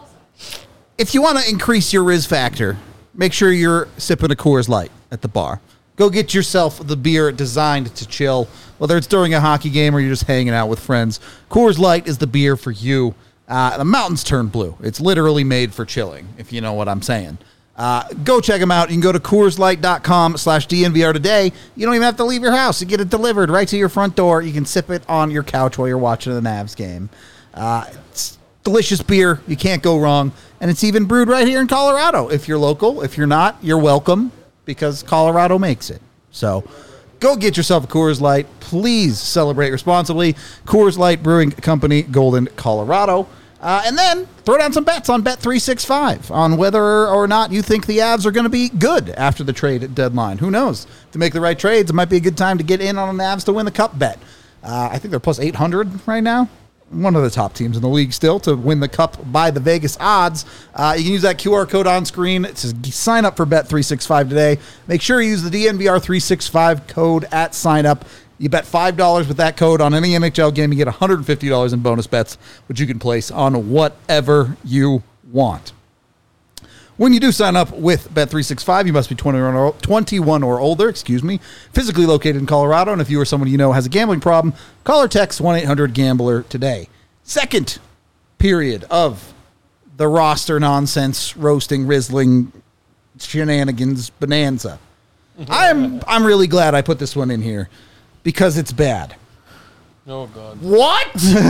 If you want to increase your Riz factor, make sure you're sipping a Coors Light at the bar. Go get yourself the beer designed to chill, whether it's during a hockey game or you're just hanging out with friends. Coors Light is the beer for you. Uh, the mountains turn blue. It's literally made for chilling, if you know what I'm saying. Uh, go check them out. You can go to CoorsLight.com slash DNVR today. You don't even have to leave your house. You get it delivered right to your front door. You can sip it on your couch while you're watching the Navs game. Uh, it's delicious beer. You can't go wrong. And it's even brewed right here in Colorado. If you're local, if you're not, you're welcome because Colorado makes it. So go get yourself a Coors Light. Please celebrate responsibly. Coors Light Brewing Company, Golden, Colorado. Uh, and then throw down some bets on Bet three sixty-five on whether or not you think the Avs are going to be good after the trade deadline. Who knows? To make the right trades, it might be a good time to get in on the Avs to win the Cup bet. Uh, I think they're plus eight hundred right now. One of the top teams in the league still to win the Cup by the Vegas odds. Uh, you can use that Q R code on screen to sign up for Bet three sixty-five today. Make sure you use the D N V R three sixty-five code at sign up. You bet five dollars with that code on any N H L game. You get one hundred fifty dollars in bonus bets, which you can place on whatever you want. When you do sign up with Bet three sixty-five, you must be twenty-one or, twenty-one or older, excuse me, physically located in Colorado. And if you or someone you know has a gambling problem, call or text one eight hundred gambler today. Second period of the roster nonsense, roasting, rizzling, shenanigans, bonanza. I'm I'm really glad I put this one in here because it's bad. Oh, God. What?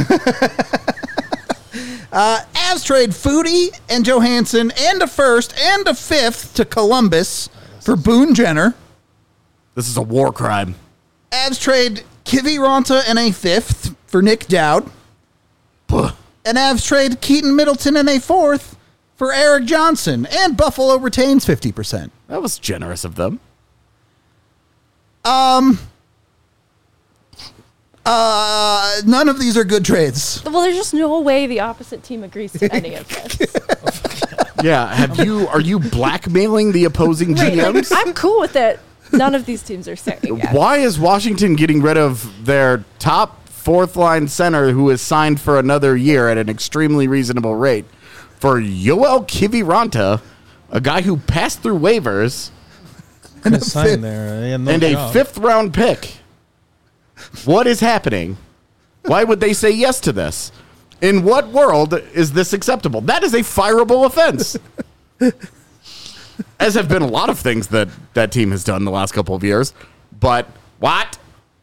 uh, Avs trade Foodie and Johansson and a first and a fifth to Columbus for Boone Jenner. This is a war crime. Avs trade Kiviranta and a fifth for Nick Dowd. Puh. And Avs trade Keaton Middleton and a fourth for Eric Johnson. And Buffalo retains fifty percent. That was generous of them. Um... Uh, none of these are good trades. Well, there's just no way the opposite team agrees to any of this. Yeah, have you? Are you blackmailing the opposing G Ms? I'm cool with it. None of these teams are saying it. Why is Washington getting rid of their top fourth line center who is signed for another year at an extremely reasonable rate for Yoel Kiviranta, a guy who passed through waivers, and a sign there, yeah, no and job. a fifth round pick. What is happening? Why would they say yes to this? In what world is this acceptable? That is a fireable offense. As have been a lot of things that that team has done the last couple of years. But what?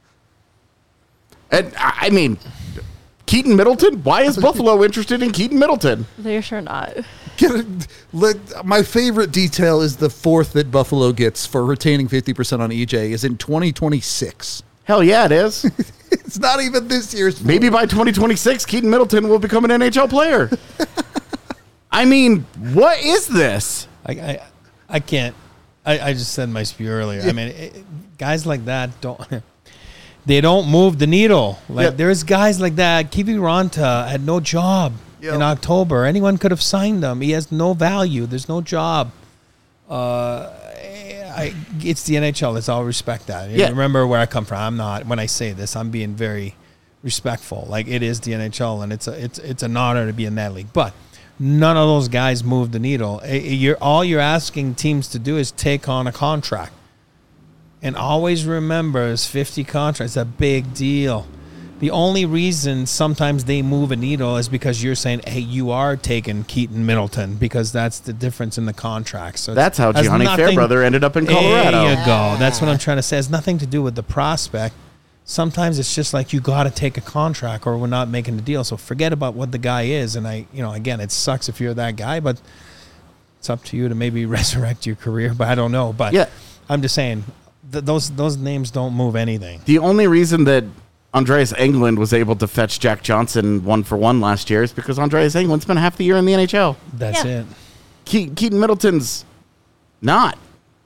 And I mean, Keaton Middleton? Why is Buffalo interested in Keaton Middleton? They're sure not. Get it- let- My favorite detail is the fourth that Buffalo gets for retaining fifty percent on E J is in twenty twenty-six. Hell yeah, it is. It's not even this year's. Maybe by twenty twenty-six, Keaton Middleton will become an N H L player. I mean, what is this? I, I, I can't. I, I just said my spew earlier. I mean, it, guys like that don't. They don't move the needle. Like Yeah. there's guys like that. Kiwi Ranta had no job Yep. in October. Anyone could have signed him. He has no value. There's no job. Uh, I, it's the N H L. Let's all respect that. Yeah. Remember where I come from. I'm not. When I say this, I'm being very respectful. Like it is the N H L, and it's a it's it's an honor to be in that league. But none of those guys move the needle. Eh, You're all you're asking teams to do is take on a contract. And always remember, it's fifty contracts. It's a big deal. The only reason sometimes they move a needle is because you're saying, hey, you are taking Keaton Middleton because that's the difference in the contract. So That's how has Gianni nothing- Fairbrother ended up in Colorado. There you go. That's what I'm trying to say. It has nothing to do with the prospect. Sometimes it's just like you got to take a contract or we're not making the deal. So forget about what the guy is. And I, you know, again, it sucks if you're that guy, but it's up to you to maybe resurrect your career. But I don't know. But Yeah. I'm just saying th- those those names don't move anything. The only reason that Andreas Englund was able to fetch Jack Johnson one for one last year is because Andreas Englund spent half the year in the N H L. That's Yeah. it. Ke- Keaton Middleton's not.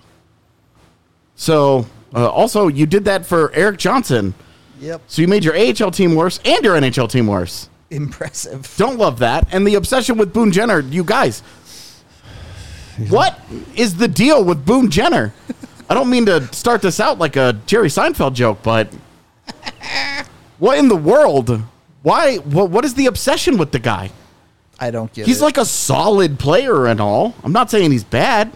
So, uh, also, you did that for Eric Johnson. Yep. So you made your A H L team worse and your N H L team worse. Impressive. Don't love that. And the obsession with Boone Jenner, you guys. What is the deal with Boone Jenner? I don't mean to start this out like a Jerry Seinfeld joke, but what in the world? Why? What, what is the obsession with the guy? I don't get He's it. like a solid player and all. I'm not saying he's bad,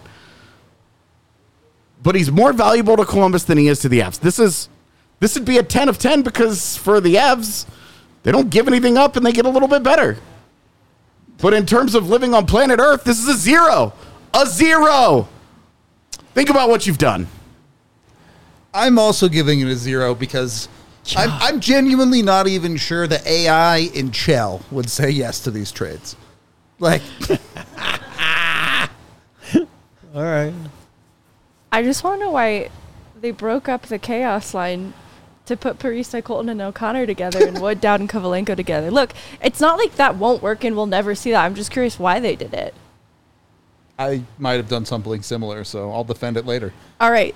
but he's more valuable to Columbus than he is to the Avs. This is this would be a ten of ten because for the Avs, they don't give anything up and they get a little bit better. But in terms of living on planet Earth, this is a zero. A zero. Think about what you've done. I'm also giving it a zero because I'm, I'm genuinely not even sure the A I in Chell would say yes to these trades. Like, All right. I just want to know why they broke up the chaos line to put Parisa, Colton, and O'Connor together and Wood, Dowd, and Kovalenko together. Look, it's not like that won't work and we'll never see that. I'm just curious why they did it. I might have done something similar, so I'll defend it later. All right,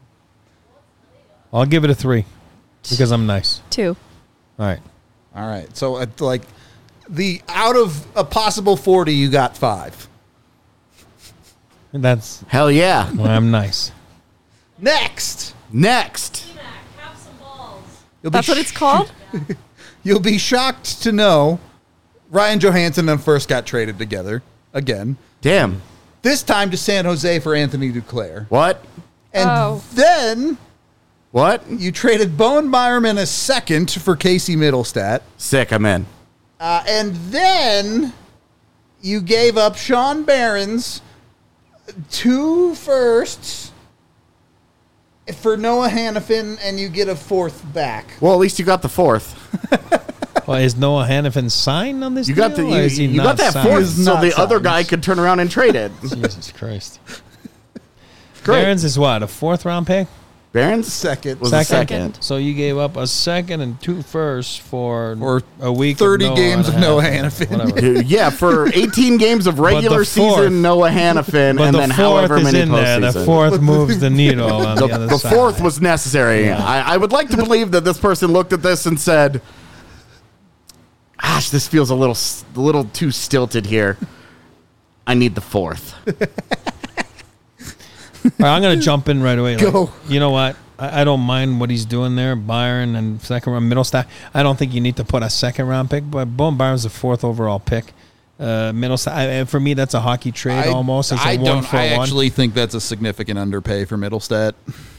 I'll give it a three because I'm nice. two. All right. All right. So, uh, like, the out of a possible forty, you got five. That's Hell yeah. why I'm nice. Next. Next. T-Mac, have some balls. You'll That's be what it's called? You'll be shocked to know Ryan Johansson and first got traded together again. Damn. This time to San Jose for Anthony Duclair. What? And Oh. then What? you traded Bowen Byerman a second for Casey Middlestat. Sick, I'm in. Uh, and then you gave up Sean Barron's two firsts for Noah Hannafin, and you get a fourth back. Well, at least you got the fourth. Well, is Noah Hannafin signed on this You deal? got the or you, is he you not got that signed? fourth, He's so not the other signed. guy could turn around and trade it. Jesus Christ. Great. Barron's is what, a fourth round pick? Barron's Second. was a second. So you gave up a second and two firsts for Or a week. thirty of Noah games of and a Noah half. Hannafin. Whatever. Yeah, for eighteen games of regular But the fourth- season, Noah Hannafin, But and the then fourth however is many in there. The postseason. fourth moves the needle on the, The, other the side. fourth was necessary. I, I would like to believe that this person looked at this and said, "Gosh, this feels a little, s- a little too stilted here. I need the fourth." All right, I'm going to jump in right away. Like, Go. you know what? I, I don't mind what he's doing there. Byron and second round middle stack. I don't think you need to put a second round pick, but Bowen Byron's the fourth overall pick. Uh, Middlestat. I, for me, that's a hockey trade I, almost. It's a I one don't. for I one. actually think that's a significant underpay for Middlestat.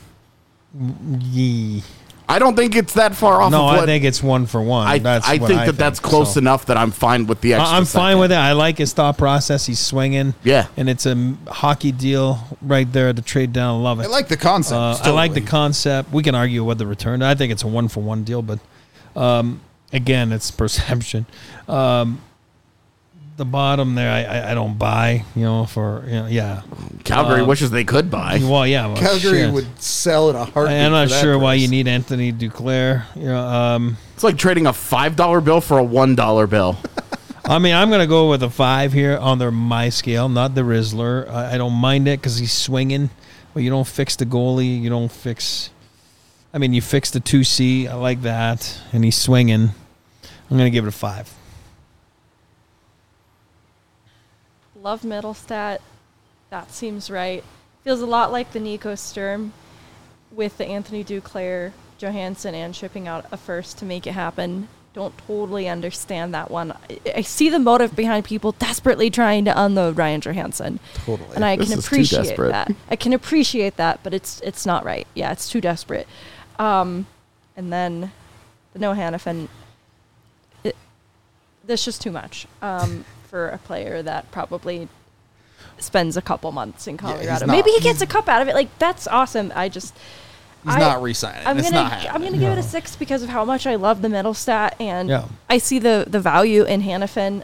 Yee. I don't think it's that far off. No, of what I think it's one for one. I, that's I what think I that that's think, close so. enough that I'm fine with the extra. I- I'm fine second. with it. I like his thought process. He's swinging. Yeah. And it's a m- hockey deal right there. The trade down. Love it. I like the concept. Uh, I totally. like the concept. We can argue with the return. I think it's a one for one deal, but um, again, it's perception. Um, the bottom there, I, I, I don't buy. You know, for you know, yeah. Calgary Um, wishes they could buy. Well, yeah. Well, Calgary shit. would sell at a heartbeat. I'm not for that sure why price. you need Anthony Duclair. You know, um, It's like trading a five dollar bill for a one dollar bill. I mean, I'm going to go with a five here on their my scale, not the Rizzler. I, I don't mind it because he's swinging, but you don't fix the goalie. You don't fix. I mean, you fix the two C. I like that, and he's swinging. I'm going to give it a five. Love Middlestat. That seems right. Feels a lot like the Nico Sturm with the Anthony Duclair, Johansson, and shipping out a first to make it happen. Don't totally understand that one. I, I see the motive behind people desperately trying to unload Ryan Johansson. Totally. And I This can is too appreciate desperate. that. I can appreciate that, but it's it's not right. Yeah, it's too desperate. Um, and then the Noah Hannafin, it, that's just too much um, for a player that probably spends a couple months in he's Colorado. not- Maybe he gets a cup out of it. Like, that's awesome. I just... He's I- not re-signing. I'm It's gonna not I'm happening. gonna give it a six because of how much I love the Middlestat, and Yeah. I see the the value in Hannafin.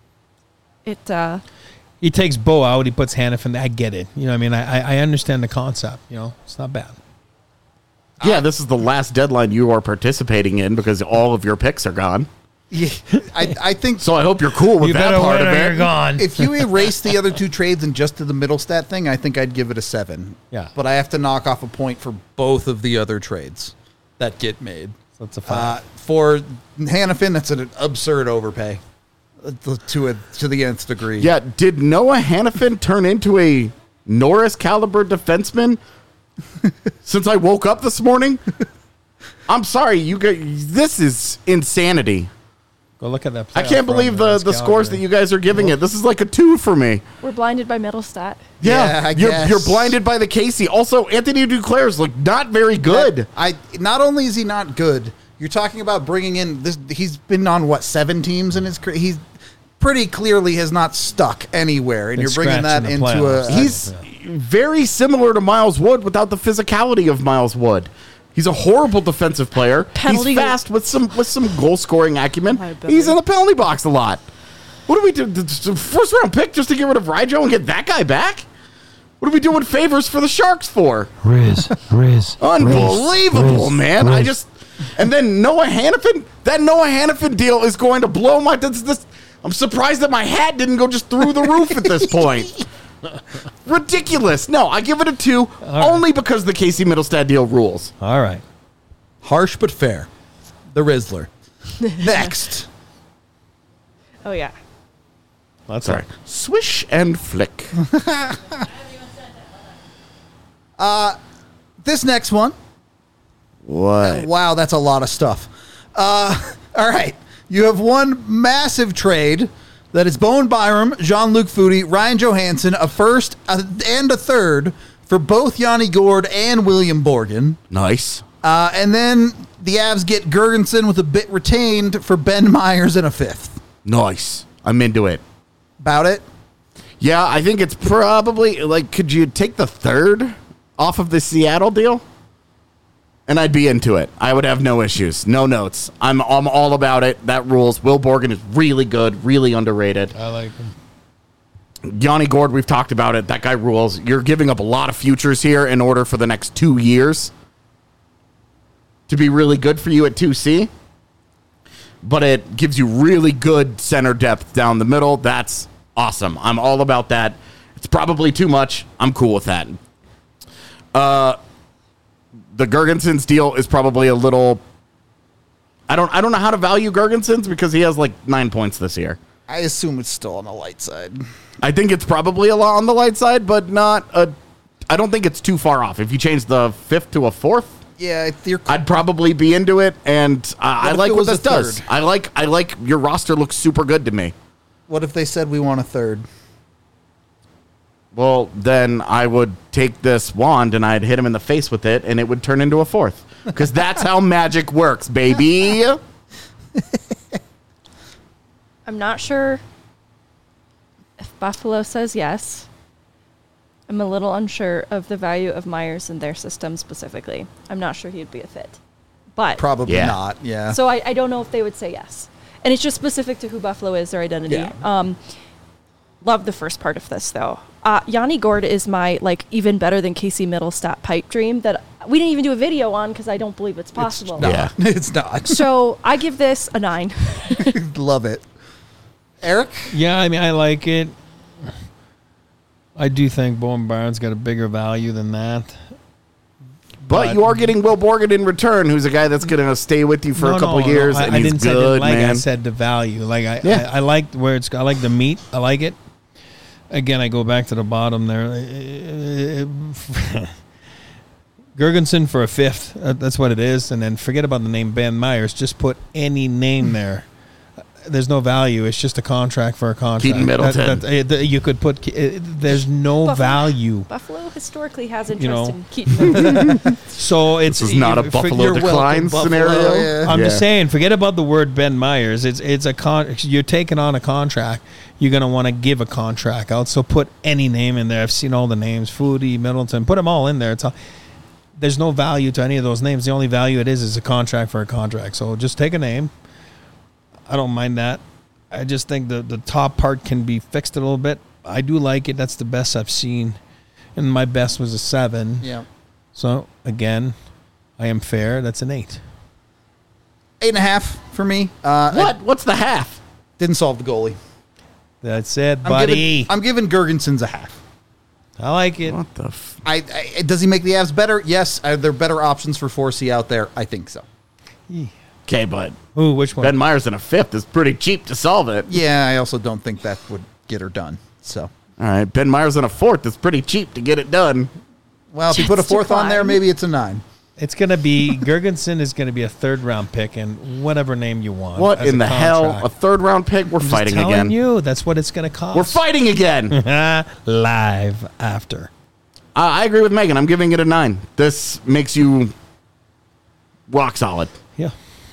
It uh, He takes Bo out. He puts Hannafin. I get it. You know, what I mean, I I- I understand the concept. You know, it's not bad. Yeah, this is the last deadline you are participating in because all of your picks are gone. Yeah, I, I think So I hope you're cool with You that better part win of or you're it. gone. if you erase the other two trades and just did the Middlestat thing, I think I'd give it a seven. Yeah. But I have to knock off a point for both of the other trades that get made. So it's a Uh, five. for Hannafin, that's an absurd overpay uh, to a to the nth degree. Yeah, did Noah Hannafin turn into a Norris caliber defenseman since I woke up this morning? I'm sorry, you guys. This is insanity. Go look at that. I can't playoff believe run the, against the scores Calgary. that you guys are giving it. This is like a two for me. we're blinded by Middlestat. Yeah, I you're, guess. you're blinded by the Casey. Also, Anthony Duclair's look not very good. That- I not only is he not good, you're talking about bringing in this. He's been on what seven teams in his career. He's pretty clearly has not stuck anywhere, and Been you're bringing that scratching the into playoffs. a. He's very similar to Miles Wood without the physicality of Miles Wood. He's a horrible defensive player. Penalty- He's fast with some with some goal scoring acumen. Liability. He's in the penalty box a lot. What do we do? The first round pick just to get rid of Rijo and get that guy back? What are we doing favors for the Sharks for? Riz, Riz. Unbelievable, Riz, man. Riz. I just and then Noah Hannafin. That Noah Hannafin deal is going to blow my. This, this, I'm surprised that my hat didn't go just through the roof at this point. Ridiculous. No, I give it a two only because the Casey Middlestat deal rules. All right. harsh but fair. The Rizzler. Next. Oh yeah. That's Sorry. Swish and flick. This next one. What? Wow, that's a lot of stuff. Uh, all right. You have one massive trade that is Bowen Byram, Jean-Luc Foudy, Ryan Johansson, a first uh, and a third for both Yanni Gord and William Borgen. Nice. Uh, and then the Avs get Gergensen with a bit retained for Ben Myers and a fifth. Nice. I'm into it. About it? Yeah, I think it's probably like, could you take the third off of the Seattle deal? And I'd be into it. I would have no issues, no notes. I'm I'm all about it. That rules. Will Borgen is really good, really underrated. I like him. Yanni Gord, we've talked about it. That guy rules. You're giving up a lot of futures here in order for the next two years to be really good for you at two C. But it gives you really good center depth down the middle. That's awesome. I'm all about that. It's probably too much. I'm cool with that. Uh, the Gergensons deal is probably a little. I don't. I don't know how to value Gergensons because he has like nine points this year. I assume it's still on the light side. I think it's probably a lot on the light side, but not a. I don't think it's too far off. If you change the fifth to a fourth, Yeah, if you're. I'd probably be into it, and uh, I if like it what was this a does. third? I like. I like your roster looks super good to me. What if they said we want a third? Well, then I would take this wand and I'd hit him in the face with it, and it would turn into a fourth. Because that's how magic works, baby. I'm not sure if Buffalo says yes. I'm a little unsure of the value of Myers in their system specifically. I'm not sure he'd be a fit. But Probably Yeah. not. Yeah. so I, I don't know if they would say yes. And it's just specific to who Buffalo is, their identity. Yeah. Um, love the first part of this, though. Uh, Yanni Gord is my, like, even better than Casey Middlestat pipe dream that we didn't even do a video on because I don't believe it's possible. It's not. Yeah. It's not. So I give this a nine. Love it. Eric? Yeah, I mean, I like it. I do think Bowen Barnes got a bigger value than that. But, But- you are getting Will Borgen in return, who's a guy that's going to stay with you for No, a couple no, years, no, I, and I he's didn't say I good, didn't like it. I man. said the value. Like I, Yeah. I, I liked where it's. I like the meat. I like it. Again, I go back to the bottom there. Gergensen for a fifth. Uh, That's what it is. And then forget about the name Ben Myers. Just put any name there. There's no value. It's just a contract for a contract. Keaton Middleton. That- that- uh, th- you could put. Ke- uh, There's no Buffalo- value. Buffalo historically has interest You know. in Keaton. So it's This is not a you- Buffalo you're welcome, decline Buffalo. scenario. Yeah. I'm Yeah. just saying, forget about the word Ben Myers. It's it's a con. You're taking on a contract. You're gonna want to give a contract out. So put any name in there. I've seen all the names: Foodie, Middleton. Put them all in there. It's all, there's no value to any of those names. The only value it is is a contract for a contract. So just take a name. I don't mind that. I just think the the top part can be fixed a little bit. I do like it. That's the best I've seen, and my best was a seven. Yeah. So again, I am fair. That's an eight. Eight and a half for me. Uh, What? I What's the half? didn't solve the goalie. That's it, I'm buddy. Giving, I'm giving Gergensen's a half. I like it. What the f- I, I does he make the Avs better? Yes. Are there better options for four C out there? I think so. Okay, but Ooh, which one? Ben Myers in a fifth is pretty cheap to solve it. Yeah, I also don't think that would get her done. So, All right, Ben Myers in a fourth is pretty cheap to get it done. well, if you put a Jets fourth on there, decline. maybe it's a nine. It's going to be Gergensen is going to be a third round pick and whatever name you want. What as in a the hell? contract. A third round pick? We're I'm just fighting telling again. you, that's what it's going to cost. We're fighting again. uh, live after. I agree with Megan. I'm giving it a nine. This makes you rock solid. Yeah.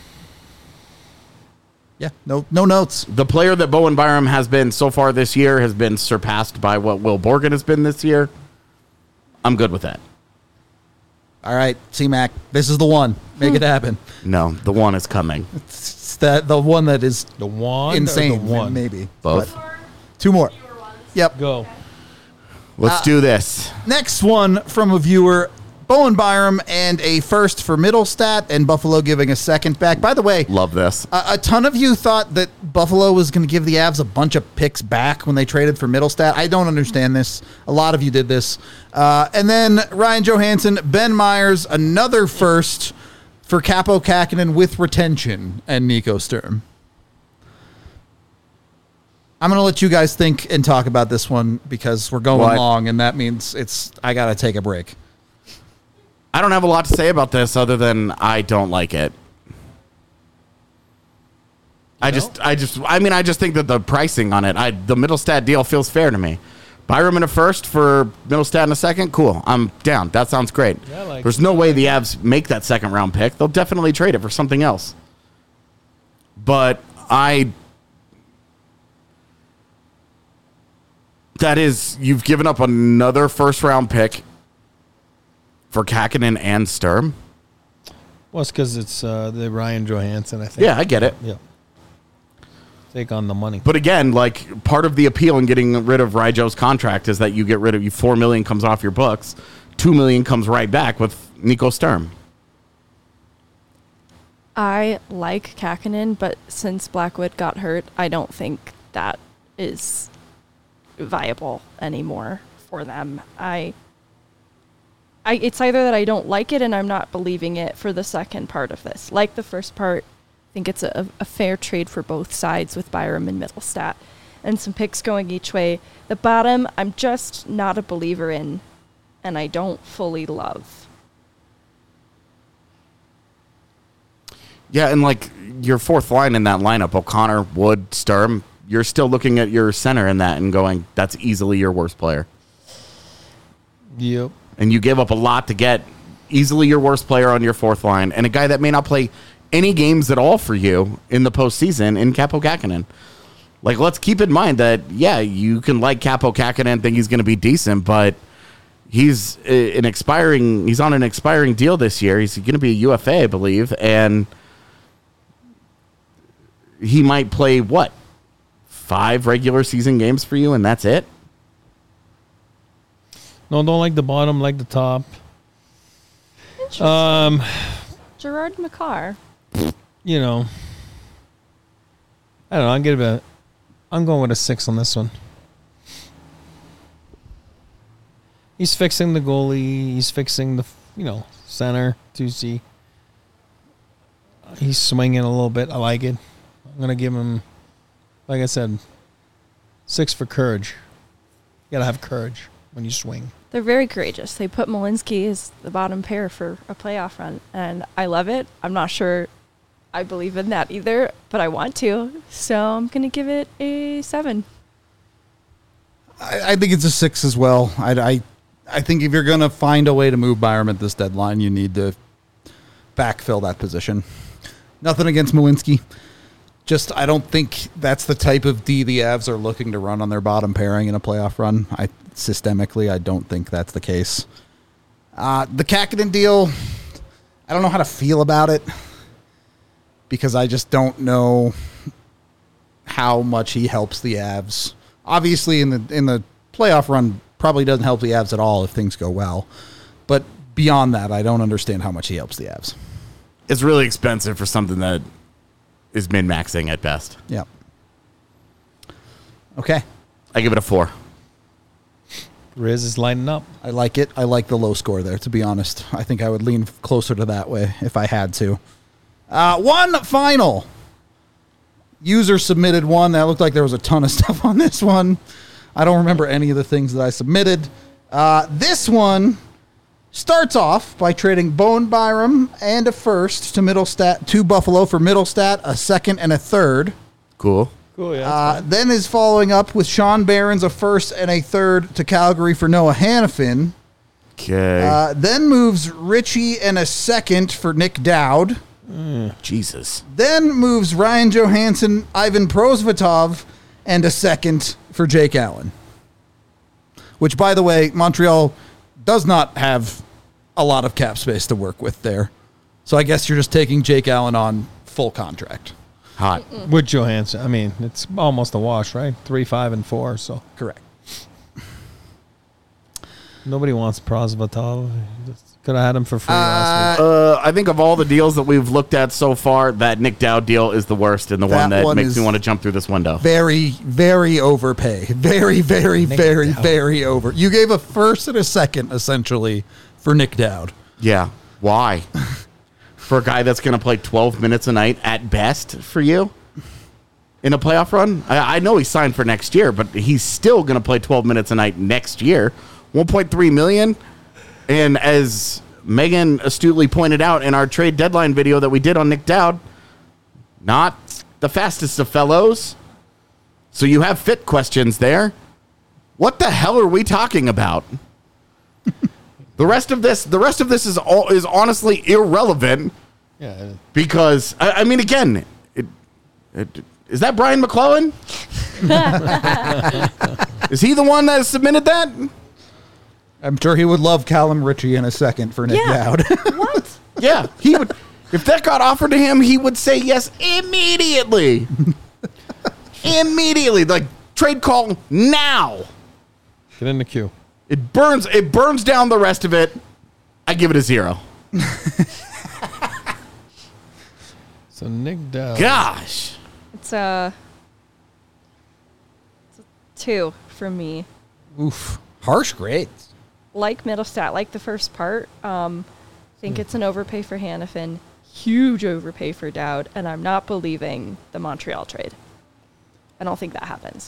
Yeah, no, no notes. The player that Bowen Byram has been so far this year has been surpassed by what Will Borgen has been this year. I'm good with that. All right, C-Mac, this is the one. Make it happen. No, the one is coming. It's that the one that is The one insane. or the one? Maybe Both. But two more. Yep. Go. Let's do this. Next one from a viewer, Bowen Byram, and a first for Middlestat, and Buffalo giving a second back. By the way, Love this. a, a ton of you thought that Buffalo was going to give the Avs a bunch of picks back when they traded for Middlestat. I don't understand this. A lot of you did this. Uh, and then Ryan Johansson, Ben Myers, another first for Capo Kakinen with retention, and Nico Sturm. I'm going to let you guys think and talk about this one because we're going What? long, and that means it's I got to take a break. I don't have a lot to say about this other than I don't like it. I just, I just, I mean, I just think that the pricing on it, I the Middlestat deal feels fair to me. Byram in a first for Middlestat in a second, cool. I'm down. That sounds great. Yeah, I like There's it. no way the Avs make that second round pick. They'll definitely trade it for something else. But I, that is, you've given up another first round pick for Kakinen and Sturm. Well, it's because it's uh, the Ryan Johansson, I think. Yeah, I get it. Yeah. Take on the money. But again, like part of the appeal in getting rid of Ryjo's contract is that you get rid of you four million comes off your books, two million comes right back with Nico Sturm. I like Kakinen, but since Blackwood got hurt, I don't think that is viable anymore for them. I, I, it's either that I don't like it and I'm not believing it for the second part of this. Like the first part, I think it's a, a fair trade for both sides with Byram and Middlestat, and some picks going each way. The bottom, I'm just not a believer in, and I don't fully love. Yeah, and like your fourth line in that lineup, O'Connor, Wood, Sturm, you're still looking at your center in that and going, that's easily your worst player. Yep. And you gave up a lot to get easily your worst player on your fourth line and a guy that may not play any games at all for you in the postseason in Kaapo Kähkönen. Like, let's keep in mind that, yeah, you can like Kaapo Kähkönen, think he's going to be decent, but he's an expiring, he's on an expiring deal this year. He's going to be a U F A, I believe, and he might play, what, five regular season games for you, and that's it? No, don't like the bottom, like the top. Interesting. Um, Gerard McCarr. you know, I don't know. I'm give it a, I'm going with a six on this one. He's fixing the goalie. He's fixing the, you know, center, two C. He's swinging a little bit. I like it. I'm going to give him, like I said, six for courage. You got to have courage when you swing. They're very courageous. They put Malinsky as the bottom pair for a playoff run, and I love it. I'm not sure I believe in that either, but I want to. So I'm going to give it a seven. I, I think it's a six as well. I, I, I think if you're going to find a way to move Byram at this deadline, you need to backfill that position. Nothing against Malinsky. Just, I don't think that's the type of D the Avs are looking to run on their bottom pairing in a playoff run. I systemically, I don't think that's the case. Uh, the Kähkönen deal, I don't know how to feel about it because I just don't know how much he helps the Avs. Obviously, in the in the playoff run, probably doesn't help the Avs at all if things go well. But beyond that, I don't understand how much he helps the Avs. It's really expensive for something that is min-maxing at best. Yeah. Okay. I give it a four. Riz is lining up. I like it. I like the low score there, to be honest. I think I would lean closer to that way if I had to. Uh, one final. User submitted one. That looked like there was a ton of stuff on this one. I don't remember any of the things that I submitted. Uh, this one starts off by trading Bowen Byram and a first to Middlestat, to Buffalo for Middlestat, a second and a third. Cool. Cool, yeah. Uh, then is following up with Sean Barron's a first and a third to Calgary for Noah Hannafin. Okay. Uh, then moves Richie and a second for Nick Dowd. Jesus. Then moves Ryan Johansson, Ivan Prosvetov, and a second for Jake Allen. Which, by the way, Montreal does not have a lot of cap space to work with there. So I guess you're just taking Jake Allen on full contract. Hot. With Johansson. I mean, it's almost a wash, right? Three, five, and four, so. Correct. Nobody wants Prosvetov. Could have had him for free last week. Uh, I think of all the deals that we've looked at so far, that Nick Dowd deal is the worst and the That one that one makes is me want to jump through this window. Very, very overpay. Very, very, Nick very, Dowd. very over. You gave a first and a second, essentially, for Nick Dowd. Yeah. Why? For a guy that's going to play twelve minutes a night at best for you in a playoff run? I, I know he's signed for next year, but he's still going to play twelve minutes a night next year. one point three million dollars. And as Megan astutely pointed out in our trade deadline video that we did on Nick Dowd, not the fastest of fellows. So you have fit questions there. What the hell are we talking about? The rest of this, the rest of this is all is honestly irrelevant. Yeah. Because I, I mean, again, it, it, is that Brian McClellan? Is he the one that submitted that? I'm sure he would love Callum Ritchie in a second for Nick Yeah. Dowd. What? Yeah, he would. If that got offered to him, he would say yes immediately. Immediately, like trade call now. Get in the queue. It burns. It burns down the rest of it. I give it a zero. So Nick Dowd. Gosh. It's a, it's a two for me. Oof. Harsh grades. Like Middlestat, like the first part. Um, I think it's an overpay for Hannafin. Huge overpay for Dowd. And I'm not believing the Montreal trade. I don't think that happens.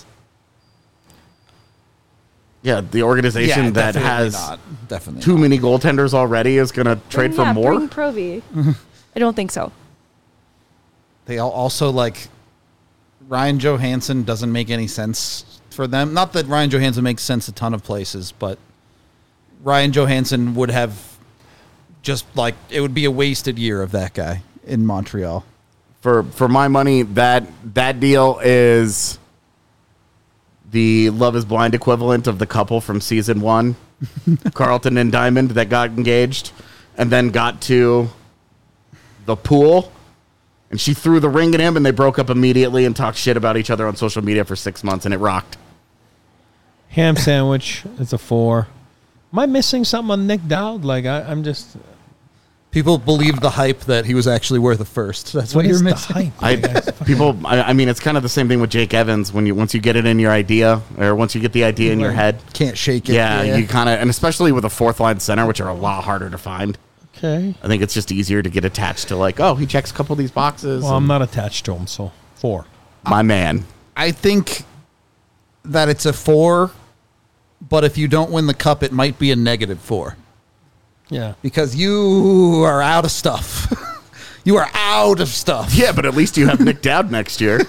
Yeah, the organization Yeah, that definitely has not. Definitely too not. many goaltenders already is going to trade Bring- for yeah, more. Bring Provy. I don't think so. They all also like Ryan Johansson doesn't make any sense for them. Not that Ryan Johansson makes sense a ton of places, but Ryan Johansson would have just like it would be a wasted year of that guy in Montreal. For for my money, that that deal is the Love is Blind equivalent of the couple from season one, Carlton and Diamond, that got engaged and then got to the pool. And she threw the ring at him, and they broke up immediately and talked shit about each other on social media for six months, and it rocked. Ham sandwich. It's a four. Am I missing something on Nick Dowd? Like I, I'm just. People believed the hype that he was actually worth a first. That's what, What you're is the missing. hype? I Like, people. I, I mean, it's kind of the same thing with Jake Evans. When you once you get it in your idea, or once you get the idea in your head, Can't shake it. yeah, you kind of, and especially with a fourth line center, which are a lot harder to find. Okay. I think it's just easier to get attached to, like, oh, he checks a couple of these boxes. Well, I'm and- not attached to him, so four. my man. I think that it's a four, but if you don't win the cup, it might be a negative four Yeah. because you are out of stuff. You are out of stuff. Yeah, but at least you have Nick Dowd next year.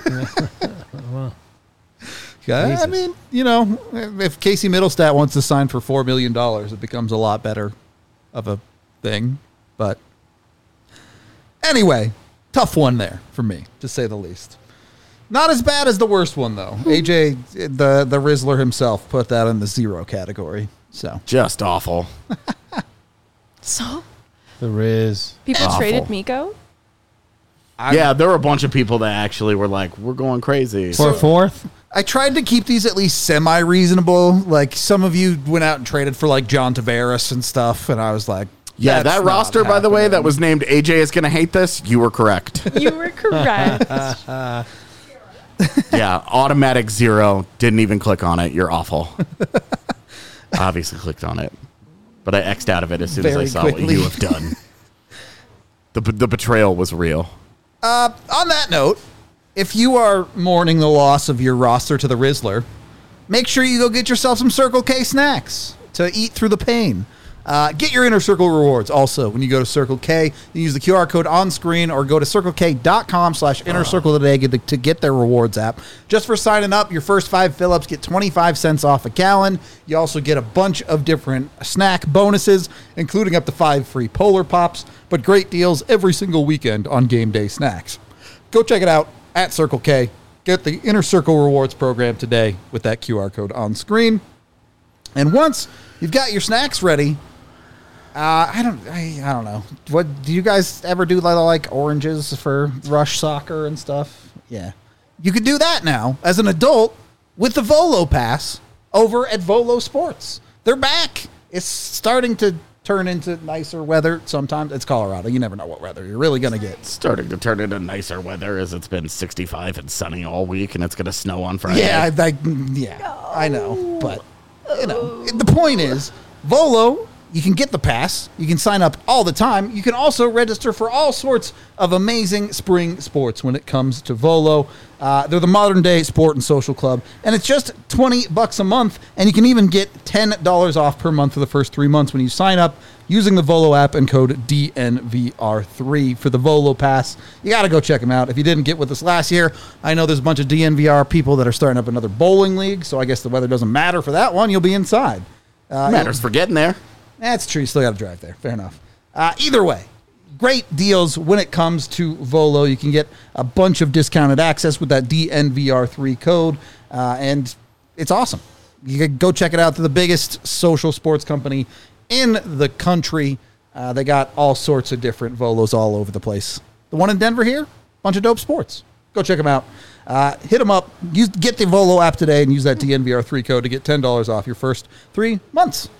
Yeah, I Jesus. mean, you know, if Casey Middlestat wants to sign for four million dollars, it becomes a lot better of a thing. But anyway, tough one there for me, to say the least. Not as bad as the worst one, though. A J, the, the Rizzler himself, put that in the zero category. So Just awful. So The Riz. people Awful. traded Miko. I, yeah, there were a bunch of people that actually were like, we're going crazy. For a fourth? I tried to keep these at least semi-reasonable. Like, some of you went out and traded for, like, John Tavares and stuff, and I was like, yeah, that's that not roster, by the way, that happening. was named A J is going to hate this. You were correct. You were correct. Yeah, automatic zero. Didn't even click on it. You're awful. Obviously clicked on it. But I X'd out of it as soon Very as I saw quickly. what you have done. The, the betrayal was real. Uh, on that note, if you are mourning the loss of your roster to the Rizzler, make sure you go get yourself some Circle K snacks to eat through the pain. Uh, get your Inner Circle rewards also when you go to Circle K. You use the Q R code on screen or go to circlek.com slash inner circle today to, to get their rewards app. Just for signing up, your first five fill-ups get twenty-five cents off a gallon. You also get a bunch of different snack bonuses, including up to five free Polar Pops, but great deals every single weekend on game day snacks. Go check it out at Circle K. Get the Inner Circle Rewards program today with that Q R code on screen. And once you've got your snacks ready, uh, I don't, I, I don't know. What do you guys ever do? Like, like oranges for rush soccer and stuff? Yeah, you could do that now as an adult with the Volo Pass over at Volo Sports. They're back. It's starting to turn into nicer weather. Sometimes it's Colorado. You never know what weather you're really gonna get. Starting to turn into nicer weather as it's been sixty-five and sunny all week, and it's going to snow on Friday. Yeah, I, I, yeah, I know, but you know, the point is, Volo. You can get the pass. You can sign up all the time. You can also register for all sorts of amazing spring sports when it comes to Volo. Uh, they're the modern day sport and social club, and it's just twenty bucks a month, and you can even get ten dollars off per month for the first three months when you sign up using the Volo app and code D N V R three for the Volo Pass. You got to go check them out. If you didn't get with us last year, I know there's a bunch of D N V R people that are starting up another bowling league, so I guess the weather doesn't matter for that one. You'll be inside. Uh, Matters for getting there. That's true. You still got to drive there. Fair enough. Uh, either way, great deals when it comes to Volo. You can get a bunch of discounted access with that D N V R three code, uh, and it's awesome. You can go check it out. They're the biggest social sports company in the country. Uh, they got all sorts of different Volos all over the place. The one in Denver here, bunch of dope sports. Go check them out. Uh, hit them up. Use, get the Volo app today and use that D N V R three code to get ten dollars off your first three months.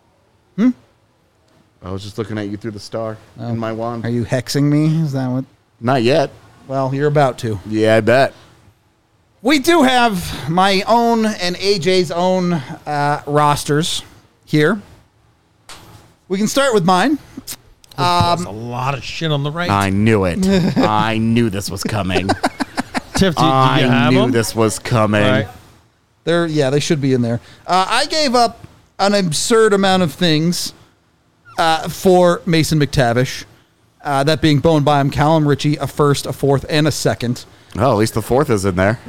I was just looking at you through the star in my wand. Are you hexing me? Is that what? Not yet. Well, you're about to. Yeah, I bet. We do have my own and A J's own uh, rosters here. We can start with mine. There's a lot of shit on the right. I knew it. I knew this was coming. Tiff, do, do you I have knew them? this was coming. Right. They're yeah, they should be in there. Uh, I gave up an absurd amount of things uh, for Mason McTavish. Uh, that being Bowen Byam, Callum Ritchie, a first, a fourth, and a second. Oh, at least the fourth is in there.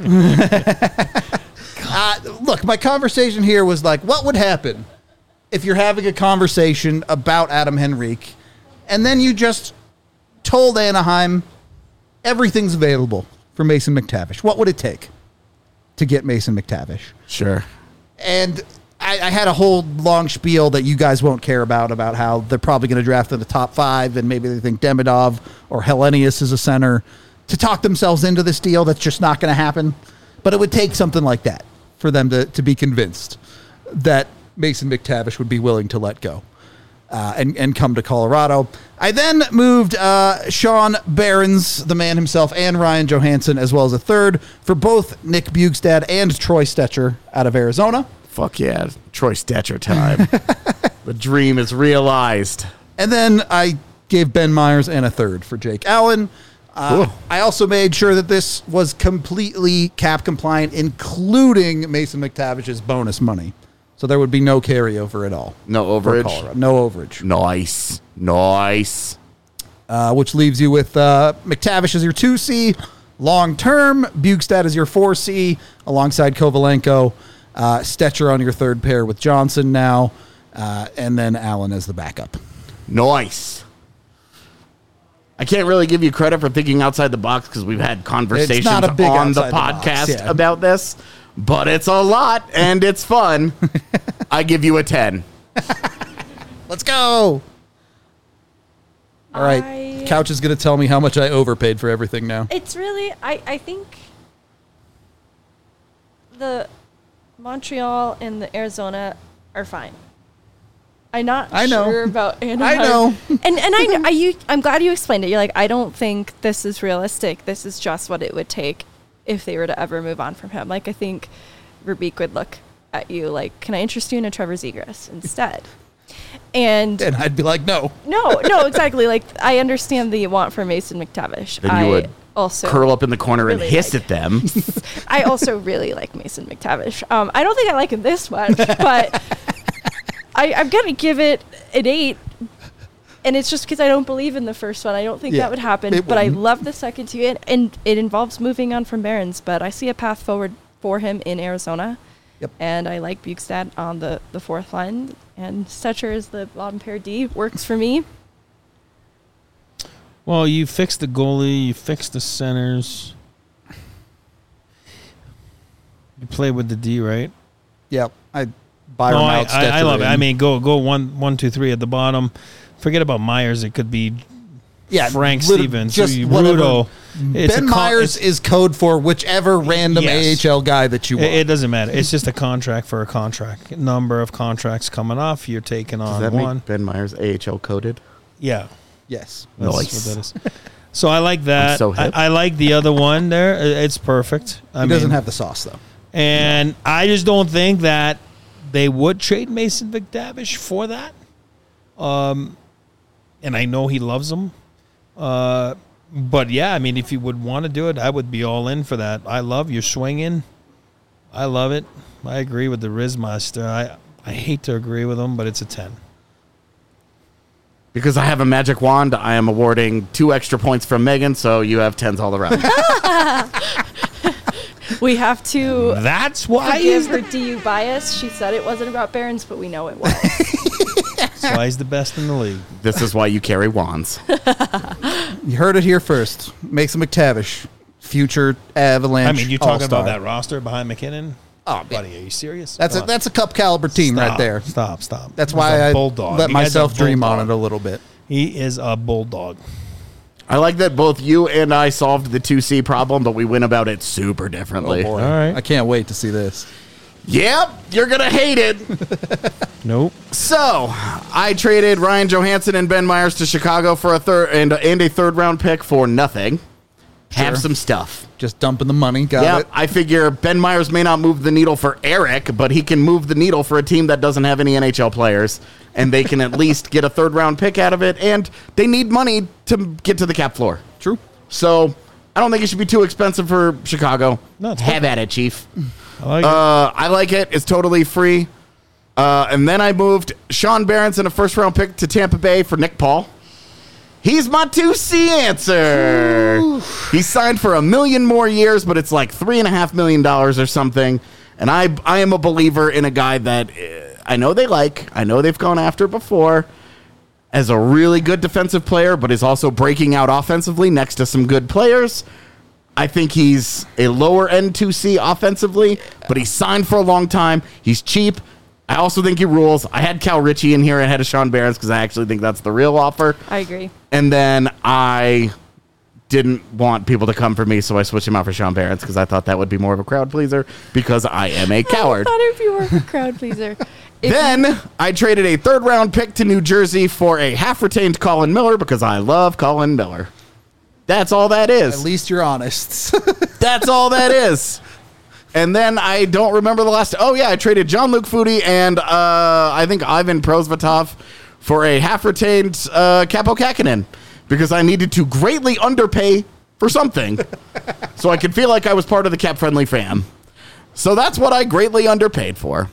Uh, look, my conversation here was like, what would happen if you're having a conversation about Adam Henrique, and then you just told Anaheim everything's available for Mason McTavish? What would it take to get Mason McTavish? Sure. And I, I had a whole long spiel that you guys won't care about, about how they're probably going to draft in the top five, and maybe they think Demidov or Hellenius is a center, to talk themselves into this deal that's just not going to happen. But it would take something like that for them to, to be convinced that Mason McTavish would be willing to let go uh, and, and come to Colorado. I then moved uh, Sean Behrens, the man himself, and Ryan Johansson, as well as a third for both Nick Bjugstad and Troy Stetcher out of Arizona. Fuck yeah. Troy Stetcher time. The dream is realized. And then I gave Ben Myers and a third for Jake Allen. Uh, I also made sure that this was completely cap compliant, including Mason McTavish's bonus money. So there would be no carryover at all. No for overage? Colorado. No overage. Nice. Nice. Uh, which leaves you with uh, McTavish as your two C, long term. Bjugstad as your four C, alongside Kovalenko. Uh, Stetcher on your third pair with Johnson now, uh, and then Allen as the backup. Nice. I can't really give you credit for thinking outside the box because we've had conversations not a big on the outside the box, podcast yeah. about this, but it's a lot and it's fun. I give you a ten. Let's go. All right. I- Couch is going to tell me how much I overpaid for everything now. It's really, I, I think the Montreal and the Arizona are fine. I'm not I know. sure about Anaheim. I know. And and I, know- I you, I'm glad you explained it. You're like, I don't think this is realistic. This is just what it would take if they were to ever move on from him. Like, I think Verbeek would look at you like, can I interest you in a Trevor Zegras instead? And And I'd be like, no. no, no, exactly. Like, I understand the want for Mason McTavish. Then you I would also curl up in the corner and really hiss like- at them. I also really like Mason McTavish. Um, I don't think I like him this much, but I, I'm going to give it an eight. And it's just because I don't believe in the first one. I don't think Yeah, that would happen. it But I wouldn't. love the second two. And, and it involves moving on from Barons. But I see a path forward for him in Arizona. Yep. And I like Bjugstad on the, the fourth line. And Stetcher is the bottom pair D. Works for me. Well, you fixed the goalie, you fixed the centers. You play with the D, right? Yep. I Byron no, I, out, I, I Stetcher love it. in. I mean, go go one one two three at the bottom. Forget about Myers. It could be yeah, Frank lit- Stevens, just Rudo. whatever. It's Ben a con- Myers it's- is code for whichever random Yes. A H L guy that you want. It, it doesn't matter. It's just a contract for a contract. Number of contracts coming off. You're taking Does on that one. make Ben Myers A H L coded? Yeah. yes. That's Nice. what that is. So I like that. so hip. I, I like the other one there. I- It's perfect. I He mean, doesn't have the sauce, though. and I just don't think that they would trade Mason McTavish for that. Um, and I know he loves him. Uh, but yeah, I mean, if you would want to do it, I would be all in for that. I love your swinging. I love it. I agree with the Rizmaster. I I hate to agree with him, but it's a ten. Because I have a magic wand, I am awarding two extra points from Megan, so you have tens all around. We have to That's why forgive he's her the, D U bias. She said it wasn't about Barons, but we know it was. that's why he's the best in the league. This is why you carry wands. You heard it here first. Mason McTavish, future Avalanche. I mean, you talking All-Star. about that roster behind McKinnon? Oh, man. Buddy, are you serious? That's a, Come on. that's a cup caliber team right Stop, there. Stop, stop. That's He's why a I bulldog. let The guy's a myself dream on it bulldog. a little bit. He is a bulldog. I like that both you and I solved the two C problem, but we went about it super differently. Oh, boy. All right. I can't wait to see this. Yep, you're going to hate it. Nope. So, I traded Ryan Johansson and Ben Myers to Chicago for a third and, and a third round pick for nothing. Have Sure. some stuff. Just dumping the money. Got Yeah, it. I figure Ben Myers may not move the needle for Eric, but he can move the needle for a team that doesn't have any N H L players, and they can at least get a third round pick out of it, and they need money to get to the cap floor. True. So, I don't think it should be too expensive for Chicago. No, it's have good. at it, Chief. I like Uh, I like it. It's totally free. Uh, and then I moved Sean Behrens and a first round pick to Tampa Bay for Nick Paul. He's my two C answer. He's signed for a million more years, but it's like three and a half million dollars or something. And I, I am a believer in a guy that uh, I know they like, I know they've gone after before, as a really good defensive player, but is also breaking out offensively next to some good players. I think he's a lower end two C offensively, but he's signed for a long time. He's cheap. I also think he rules. I had Cal Ritchie in here ahead of Sean Behrens because I actually think that's the real offer. I agree. And then I didn't want people to come for me, so I switched him out for Sean Behrens because I thought that would be more of a crowd pleaser because I am a coward. I thought if you were a crowd pleaser. If Then you- I traded a third round pick to New Jersey for a half retained Colin Miller because I love Colin Miller. That's all that is. At least you're honest. That's all that is. And then I don't remember the last. Oh, yeah, I traded Jean-Luc Foudy and uh, I think Ivan Prosvetov for a half retained uh, Capo Kakinen because I needed to greatly underpay for something so I could feel like I was part of the cap friendly fam. So that's what I greatly underpaid for.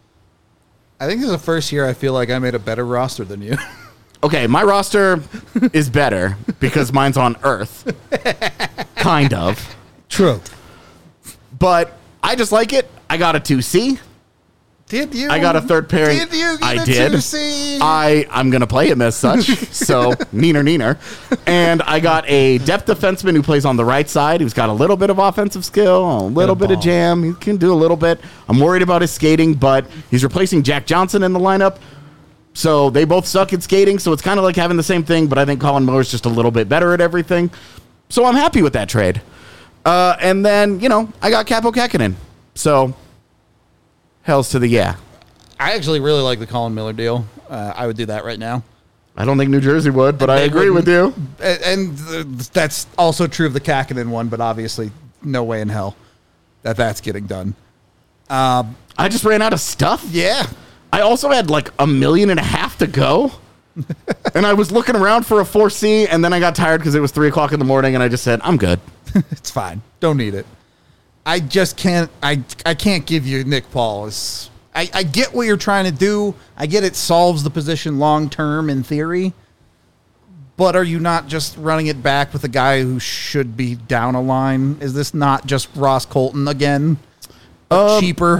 I think this is the first year I feel like I made a better roster than you. Okay, my roster is better because mine's on Earth. Kind of. True. But I just like it. I got a two C. Did you? I got a third pairing. Did you get I a did. two C? I, I'm going to play him as such. So, neener, neener. And I got a depth defenseman who plays on the right side. Who's got a little bit of offensive skill, a little bit of ball. jam. He can do a little bit. I'm worried about his skating, but he's replacing Jack Johnson in the lineup. So, they both suck at skating. So, it's kind of like having the same thing, but I think Colin Miller's just a little bit better at everything. So, I'm happy with that trade. Uh, and then, you know, I got Capo Kakinen. So, hells to the yeah. I actually really like the Colin Miller deal. Uh, I would do that right now. I don't think New Jersey would, but I They agree with wouldn't. you. And, and th- that's also true of the Kakinen one, but obviously, no way in hell that that's getting done. I just ran out of stuff. Yeah. I also had like a million and a half to go. And I was looking around for a four C, and then I got tired because it was three o'clock in the morning, and I just said, I'm good. It's fine. Don't need it. I just can't. I I can't give you Nick Paul. It's, I I get what you're trying to do. I get it solves the position long term in theory. But are you not just running it back with a guy who should be down a line? Is this not just Ross Colton again? Um, Cheaper.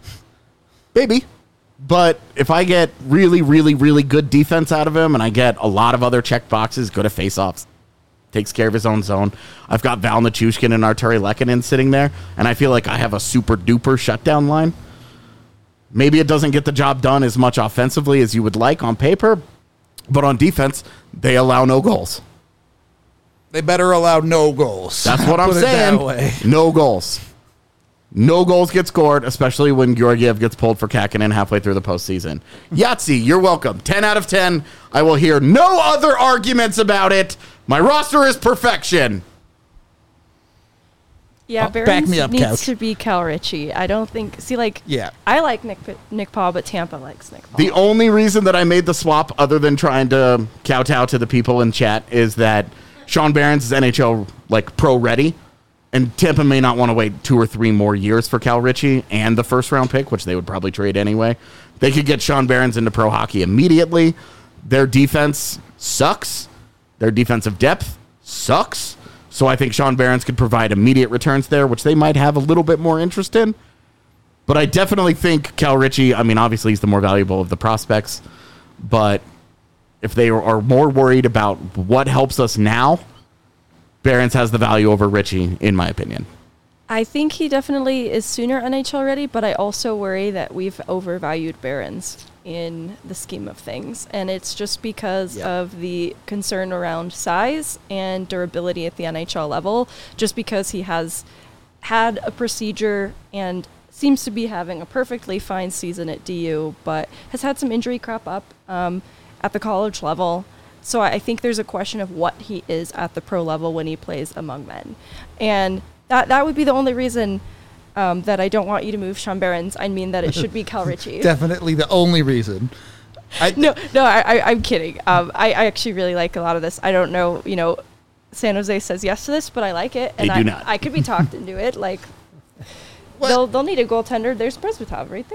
Maybe. But if I get really, really, really good defense out of him, and I get a lot of other check boxes, good at faceoffs, takes care of his own zone. I've got Val Nichushkin and Arturi Lehkonen sitting there, and I feel like I have a super duper shutdown line. Maybe it doesn't get the job done as much offensively as you would like on paper, but on defense, they allow no goals. They better allow no goals. That's what I'm Put it that saying. way. No goals. No goals get scored, especially when Georgiev gets pulled for Kakinen halfway through the postseason. Yahtzee, you're welcome. ten out of ten. I will hear no other arguments about it. My roster is perfection. Yeah, Oh, back Behrens me up, needs Couch. to be Cal Ritchie. I don't think. See, like, Yeah. I like Nick Nick Paul, but Tampa likes Nick Paul. The only reason that I made the swap, other than trying to kowtow to the people in chat, is that Sean Behrens is N H L like pro ready, and Tampa may not want to wait two or three more years for Cal Ritchie and the first round pick, which they would probably trade anyway. They could get Sean Behrens into pro hockey immediately. Their defense sucks. Their defensive depth sucks. So I think Sean Behrens could provide immediate returns there, which they might have a little bit more interest in. But I definitely think Cal Ritchie, I mean, obviously he's the more valuable of the prospects, but if they are more worried about what helps us now, Behrens has the value over Ritchie, in my opinion. I think he definitely is sooner N H L ready, but I also worry that we've overvalued Behrens in the scheme of things. And it's just because Yeah. of the concern around size and durability at the N H L level, just because he has had a procedure and seems to be having a perfectly fine season at D U, but has had some injury crop up um, at the college level. So I think there's a question of what he is at the pro level when he plays among men. And that that would be the only reason um, that I don't want you to move Sean Behrens. I mean that it should be Cal Ritchie. Definitely the only reason. I, No, no, I, I, I'm kidding. Um, I, I actually really like a lot of this. I don't know, you know, San Jose says yes to this, but I like it. And They I, do not. I could be talked into it. Like, What? they'll they'll need a goaltender. There's Prosvetov right there.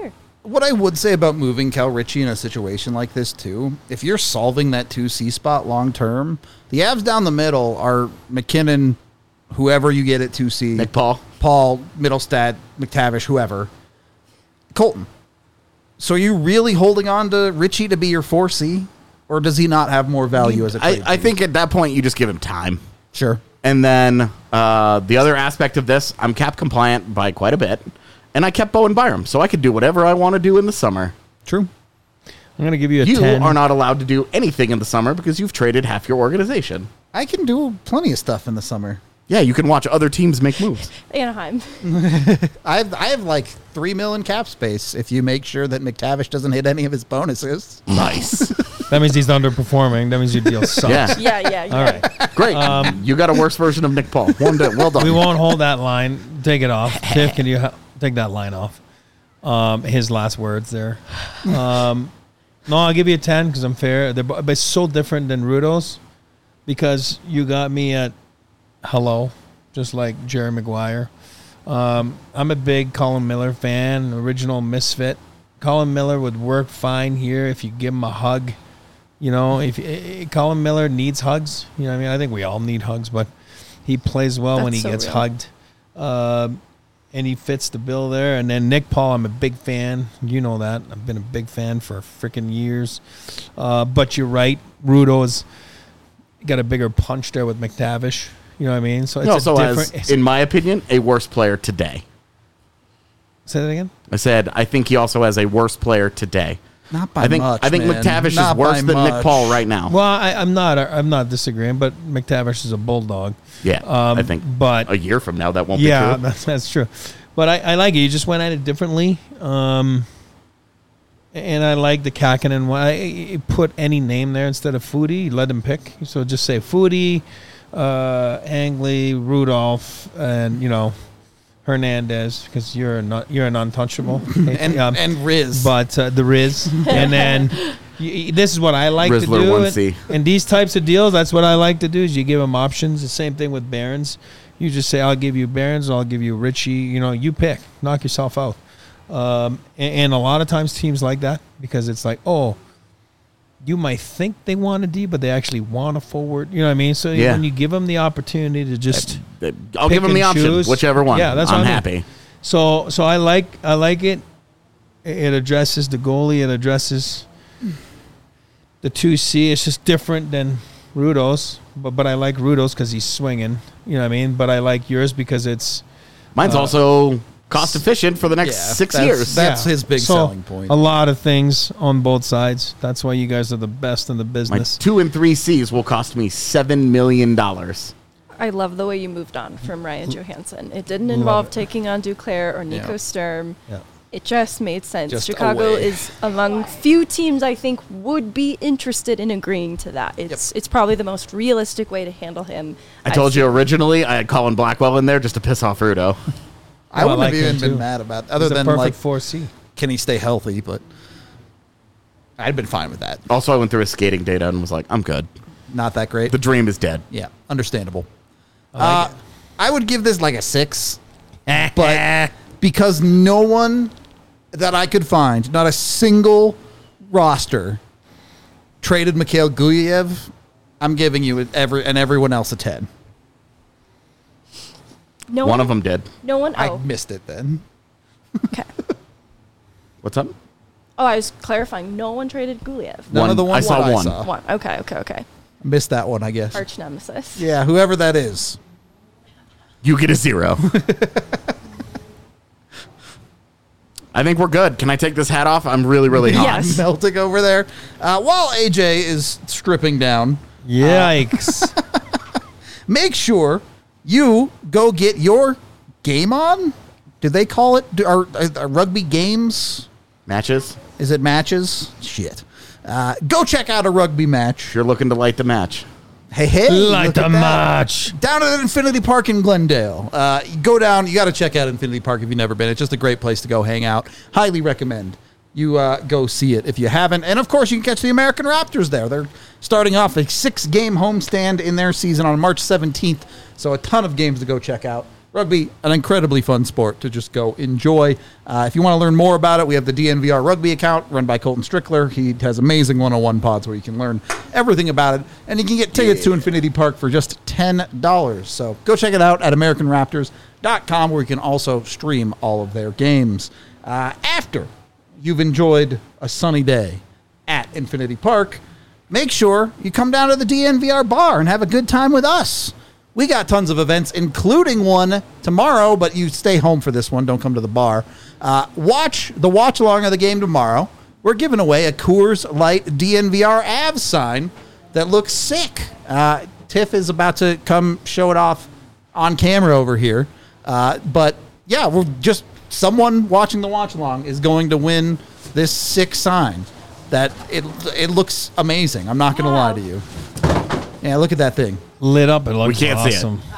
What I would say about moving Cal Ritchie in a situation like this, too, if you're solving that two C spot long term, the Avs down the middle are McKinnon, whoever you get at two C. Nick Paul. Paul, Middlestat, McTavish, whoever. Colton. So are you really holding on to Ritchie to be your four C? Or does he not have more value as a I, trade I piece? think at that point you just give him time. Sure. And then uh, the other aspect of this, I'm cap compliant by quite a bit. And I kept Bowen Byram, so I could do whatever I want to do in the summer. True. I'm going to give you a You ten. are not allowed to do anything in the summer because you've traded half your organization. I can do plenty of stuff in the summer. Yeah, you can watch other teams make moves. Anaheim. I have, I have like three million cap space if you make sure that McTavish doesn't hit any of his bonuses. Nice. That means he's underperforming. That means your deal sucks. Yeah. Yeah, yeah, yeah. All right. Great. you got a worse version of Nick Paul. One day. Well done. We won't hold that line. Take it off. Tiff, can you ha- take that line off? Um, his last words there. Um, no, I'll give you a ten because I'm fair. They're, but it's so different than Rudo's because you got me at hello, just like Jerry Maguire. Um, I'm a big Colin Miller fan, original misfit. Colin Miller would work fine here if you give him a hug. You know, if uh, Colin Miller needs hugs, you know what I mean? I think we all need hugs, but he plays well when he That's so gets real. hugged. Um, and he fits the bill there. And then Nick Paul, I'm a big fan. You know that. I've been a big fan for freaking years. Uh, but you're right. Rudo's got a bigger punch there with McTavish. You know what I mean? So it's He also a has, different. in my opinion, a worse player today. Say that again? I said I think he also has a worse player today. Not by I think much, I think man. McTavish Not is worse by than Nick much. Paul right now. Well, I, I'm not. I'm not disagreeing, but McTavish is a bulldog. yeah, um, I think but- a year from now that won't Yeah, be true. that's, that's true. But I, I like it. You just went at it differently. Um, and I like the Kakinen one. I, I put any name there instead of Foodie. Let him pick. So just say Foodie, uh, Angley, Rudolph, and, you know, Hernandez, because you're not you're an untouchable. And, Um, and Riz. but uh, the Riz, and then y- this is what I like Rizzler to do. one And, C. and these types of deals, that's what I like to do. Is you give them options. The same thing with Barons. You just say, "I'll give you Barons. I'll give you Richie." You know, you pick. Knock yourself out. Um, and, and a lot of times teams like that because it's like, oh, you might think they want a D, but they actually want a forward. You know what I mean? So Yeah. when you give them the opportunity to just I'll pick give him the and option, choose. whichever one. Yeah, that's I'm what I mean. happy. So so I like I like it. It addresses the goalie. It addresses the two C. It's just different than Rudo's, but but I like Rudo's because he's swinging. You know what I mean? But I like yours because it's Mine's Uh, also cost efficient for the next Yeah, six that's- years. That's his big So, selling point. A lot of things on both sides. That's why you guys are the best in the My business. two and three C's will cost me seven million dollars. I love the way you moved on from Ryan Johansson. It didn't Love involve it. taking on Duclair or Nico Yeah. Sturm. Yeah. It just made sense. Just Chicago away. is among few teams I think would be interested in agreeing to that. It's it's probably the most realistic way to handle him. I I've told you seen- originally I had Colin Blackwell in there just to piss off Rudo. I Oh, I wouldn't like have even him been too. mad about other He's a than perfect like four C. can he stay healthy, but I'd been fine with that. Also, I went through his skating data and was like, I'm good. Not that great. The dream is dead. Yeah, understandable. uh, I would give this like a six, but because no one that I could find, not a single roster, traded Mikhail Guyev, I'm giving you every and everyone else a ten. no One of them did. No one. I Oh, missed it then. okay. What's up? Oh, I was clarifying. No one traded Guliev. None One. of the ones I saw that one. I saw. One. Okay. Okay. Okay. Missed that one, I guess. Arch nemesis. Yeah, whoever that is. You get a zero. I think we're good. Can I take this hat off? I'm really, really hot. Yes. Melting over there. Uh, while A J is stripping down, Yikes. make sure you go get your game on. Do they call it do, are, are rugby games? Matches? Is it matches? Shit. Uh, go check out a rugby match. If you're looking to light the match. Hey, hey. Like look the at that. match. Down at Infinity Park in Glendale. Uh, go down. You got to check out Infinity Park if you've never been. It's just a great place to go hang out. Highly recommend you uh, go see it if you haven't. And, of course, you can catch the American Raptors there. They're starting off a six-game homestand in their season on March seventeenth. So a ton of games to go check out. Rugby, an incredibly fun sport to just go enjoy. Uh, if you want to learn more about it, we have the D N V R Rugby account run by Colton Strickler. He has amazing one oh one pods where you can learn everything about it. And you can get tickets yeah. to Infinity Park for just ten dollars. So go check it out at American Raptors dot com, where you can also stream all of their games. Uh, after you've enjoyed a sunny day at Infinity Park, make sure you come down to the D N V R bar and have a good time with us. We got tons of events, including one tomorrow, but you stay home for this one. Don't come to the bar. Uh, watch the watch along of the game tomorrow. We're giving away a Coors Light D N V R Avs sign that looks sick. Uh, Tiff is about to come show it off on camera over here. Uh, but yeah, we're just someone watching the watch along is going to win this sick sign. That it it looks amazing. I'm not going to wow. lie to you. Yeah, look at that thing. Lit up. It looks we can't awesome. see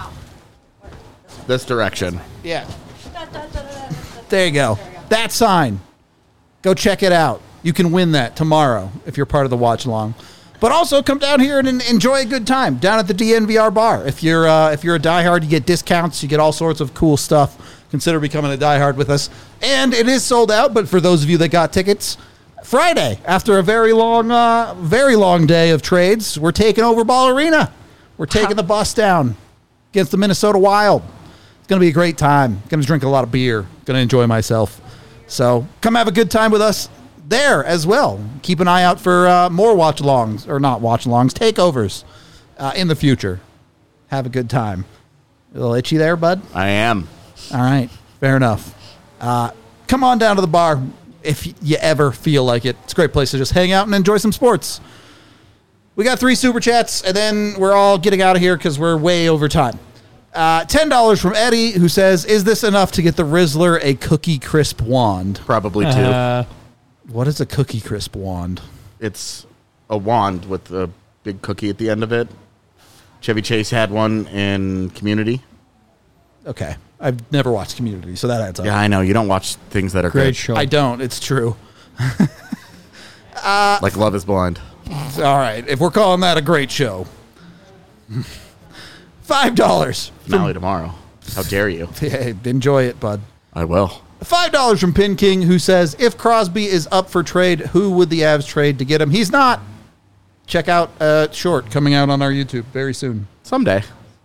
it. This direction. Yeah. There you go. That sign. Go check it out. You can win that tomorrow if you're part of the watch along. But also come down here and enjoy a good time down at the D N V R bar. If you're uh, if you're a diehard, you get discounts. You get all sorts of cool stuff. Consider becoming a diehard with us. And it is sold out. But for those of you that got tickets, Friday, after a very long, uh, very long day of trades, we're taking over Ball Arena. We're taking the bus down against the Minnesota Wild. It's going to be a great time. Going to drink a lot of beer. Going to enjoy myself. So come have a good time with us there as well. Keep an eye out for uh, more watch-alongs, or not watch-alongs, takeovers uh, in the future. Have a good time. A little itchy there, bud? I am. All right. Fair enough. Uh, come on down to the bar if you ever feel like it. It's a great place to just hang out and enjoy some sports. We got three super chats, and then we're all getting out of here because we're way over time. Uh, ten dollars from Eddie, who says, is this enough to get the Rizzler a Cookie Crisp wand? Probably two. Uh, What is a Cookie Crisp wand? It's a wand with a big cookie at the end of it. Chevy Chase had one in Community. Okay. I've never watched Community, so that adds up. Yeah, I know. You don't watch things that are great good. show. I don't. It's true. uh, like Love is Blind. All right. If we're calling that a great show. Five dollars. Finale tomorrow. How dare you? Hey, enjoy it, bud. I will. Five dollars from Pin King, who says, if Crosby is up for trade, who would the Avs trade to get him? He's not. Check out uh, Short coming out on our YouTube very soon. Someday.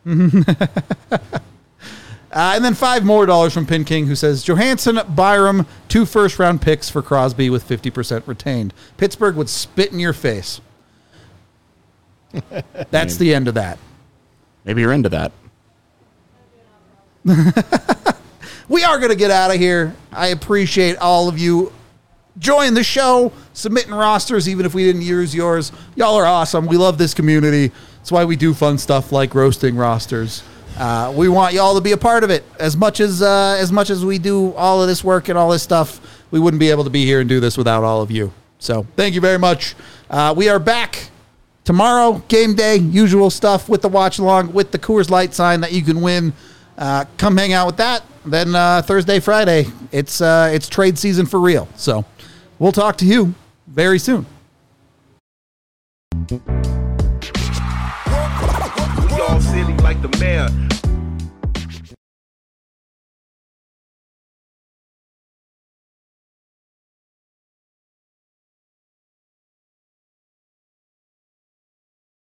Uh, and then five more dollars from Pin King, who says, Johansson, Byram, two first-round picks for Crosby with fifty percent retained. Pittsburgh would spit in your face. That's the end of that. Maybe you're into that. We are going to get out of here. I appreciate all of you joining the show, submitting rosters, even if we didn't use yours. Y'all are awesome. We love this community. That's why we do fun stuff like roasting rosters. Uh, we want y'all to be a part of it as much as uh, as much as we do all of this work and all this stuff. We wouldn't be able to be here and do this without all of you. So thank you very much. Uh, we are back tomorrow, game day, usual stuff with the watch along with the Coors Light sign that you can win. Uh, come hang out with that. Then uh, Thursday, Friday, it's uh, it's trade season for real. So we'll talk to you very soon. We all silly like the mayor.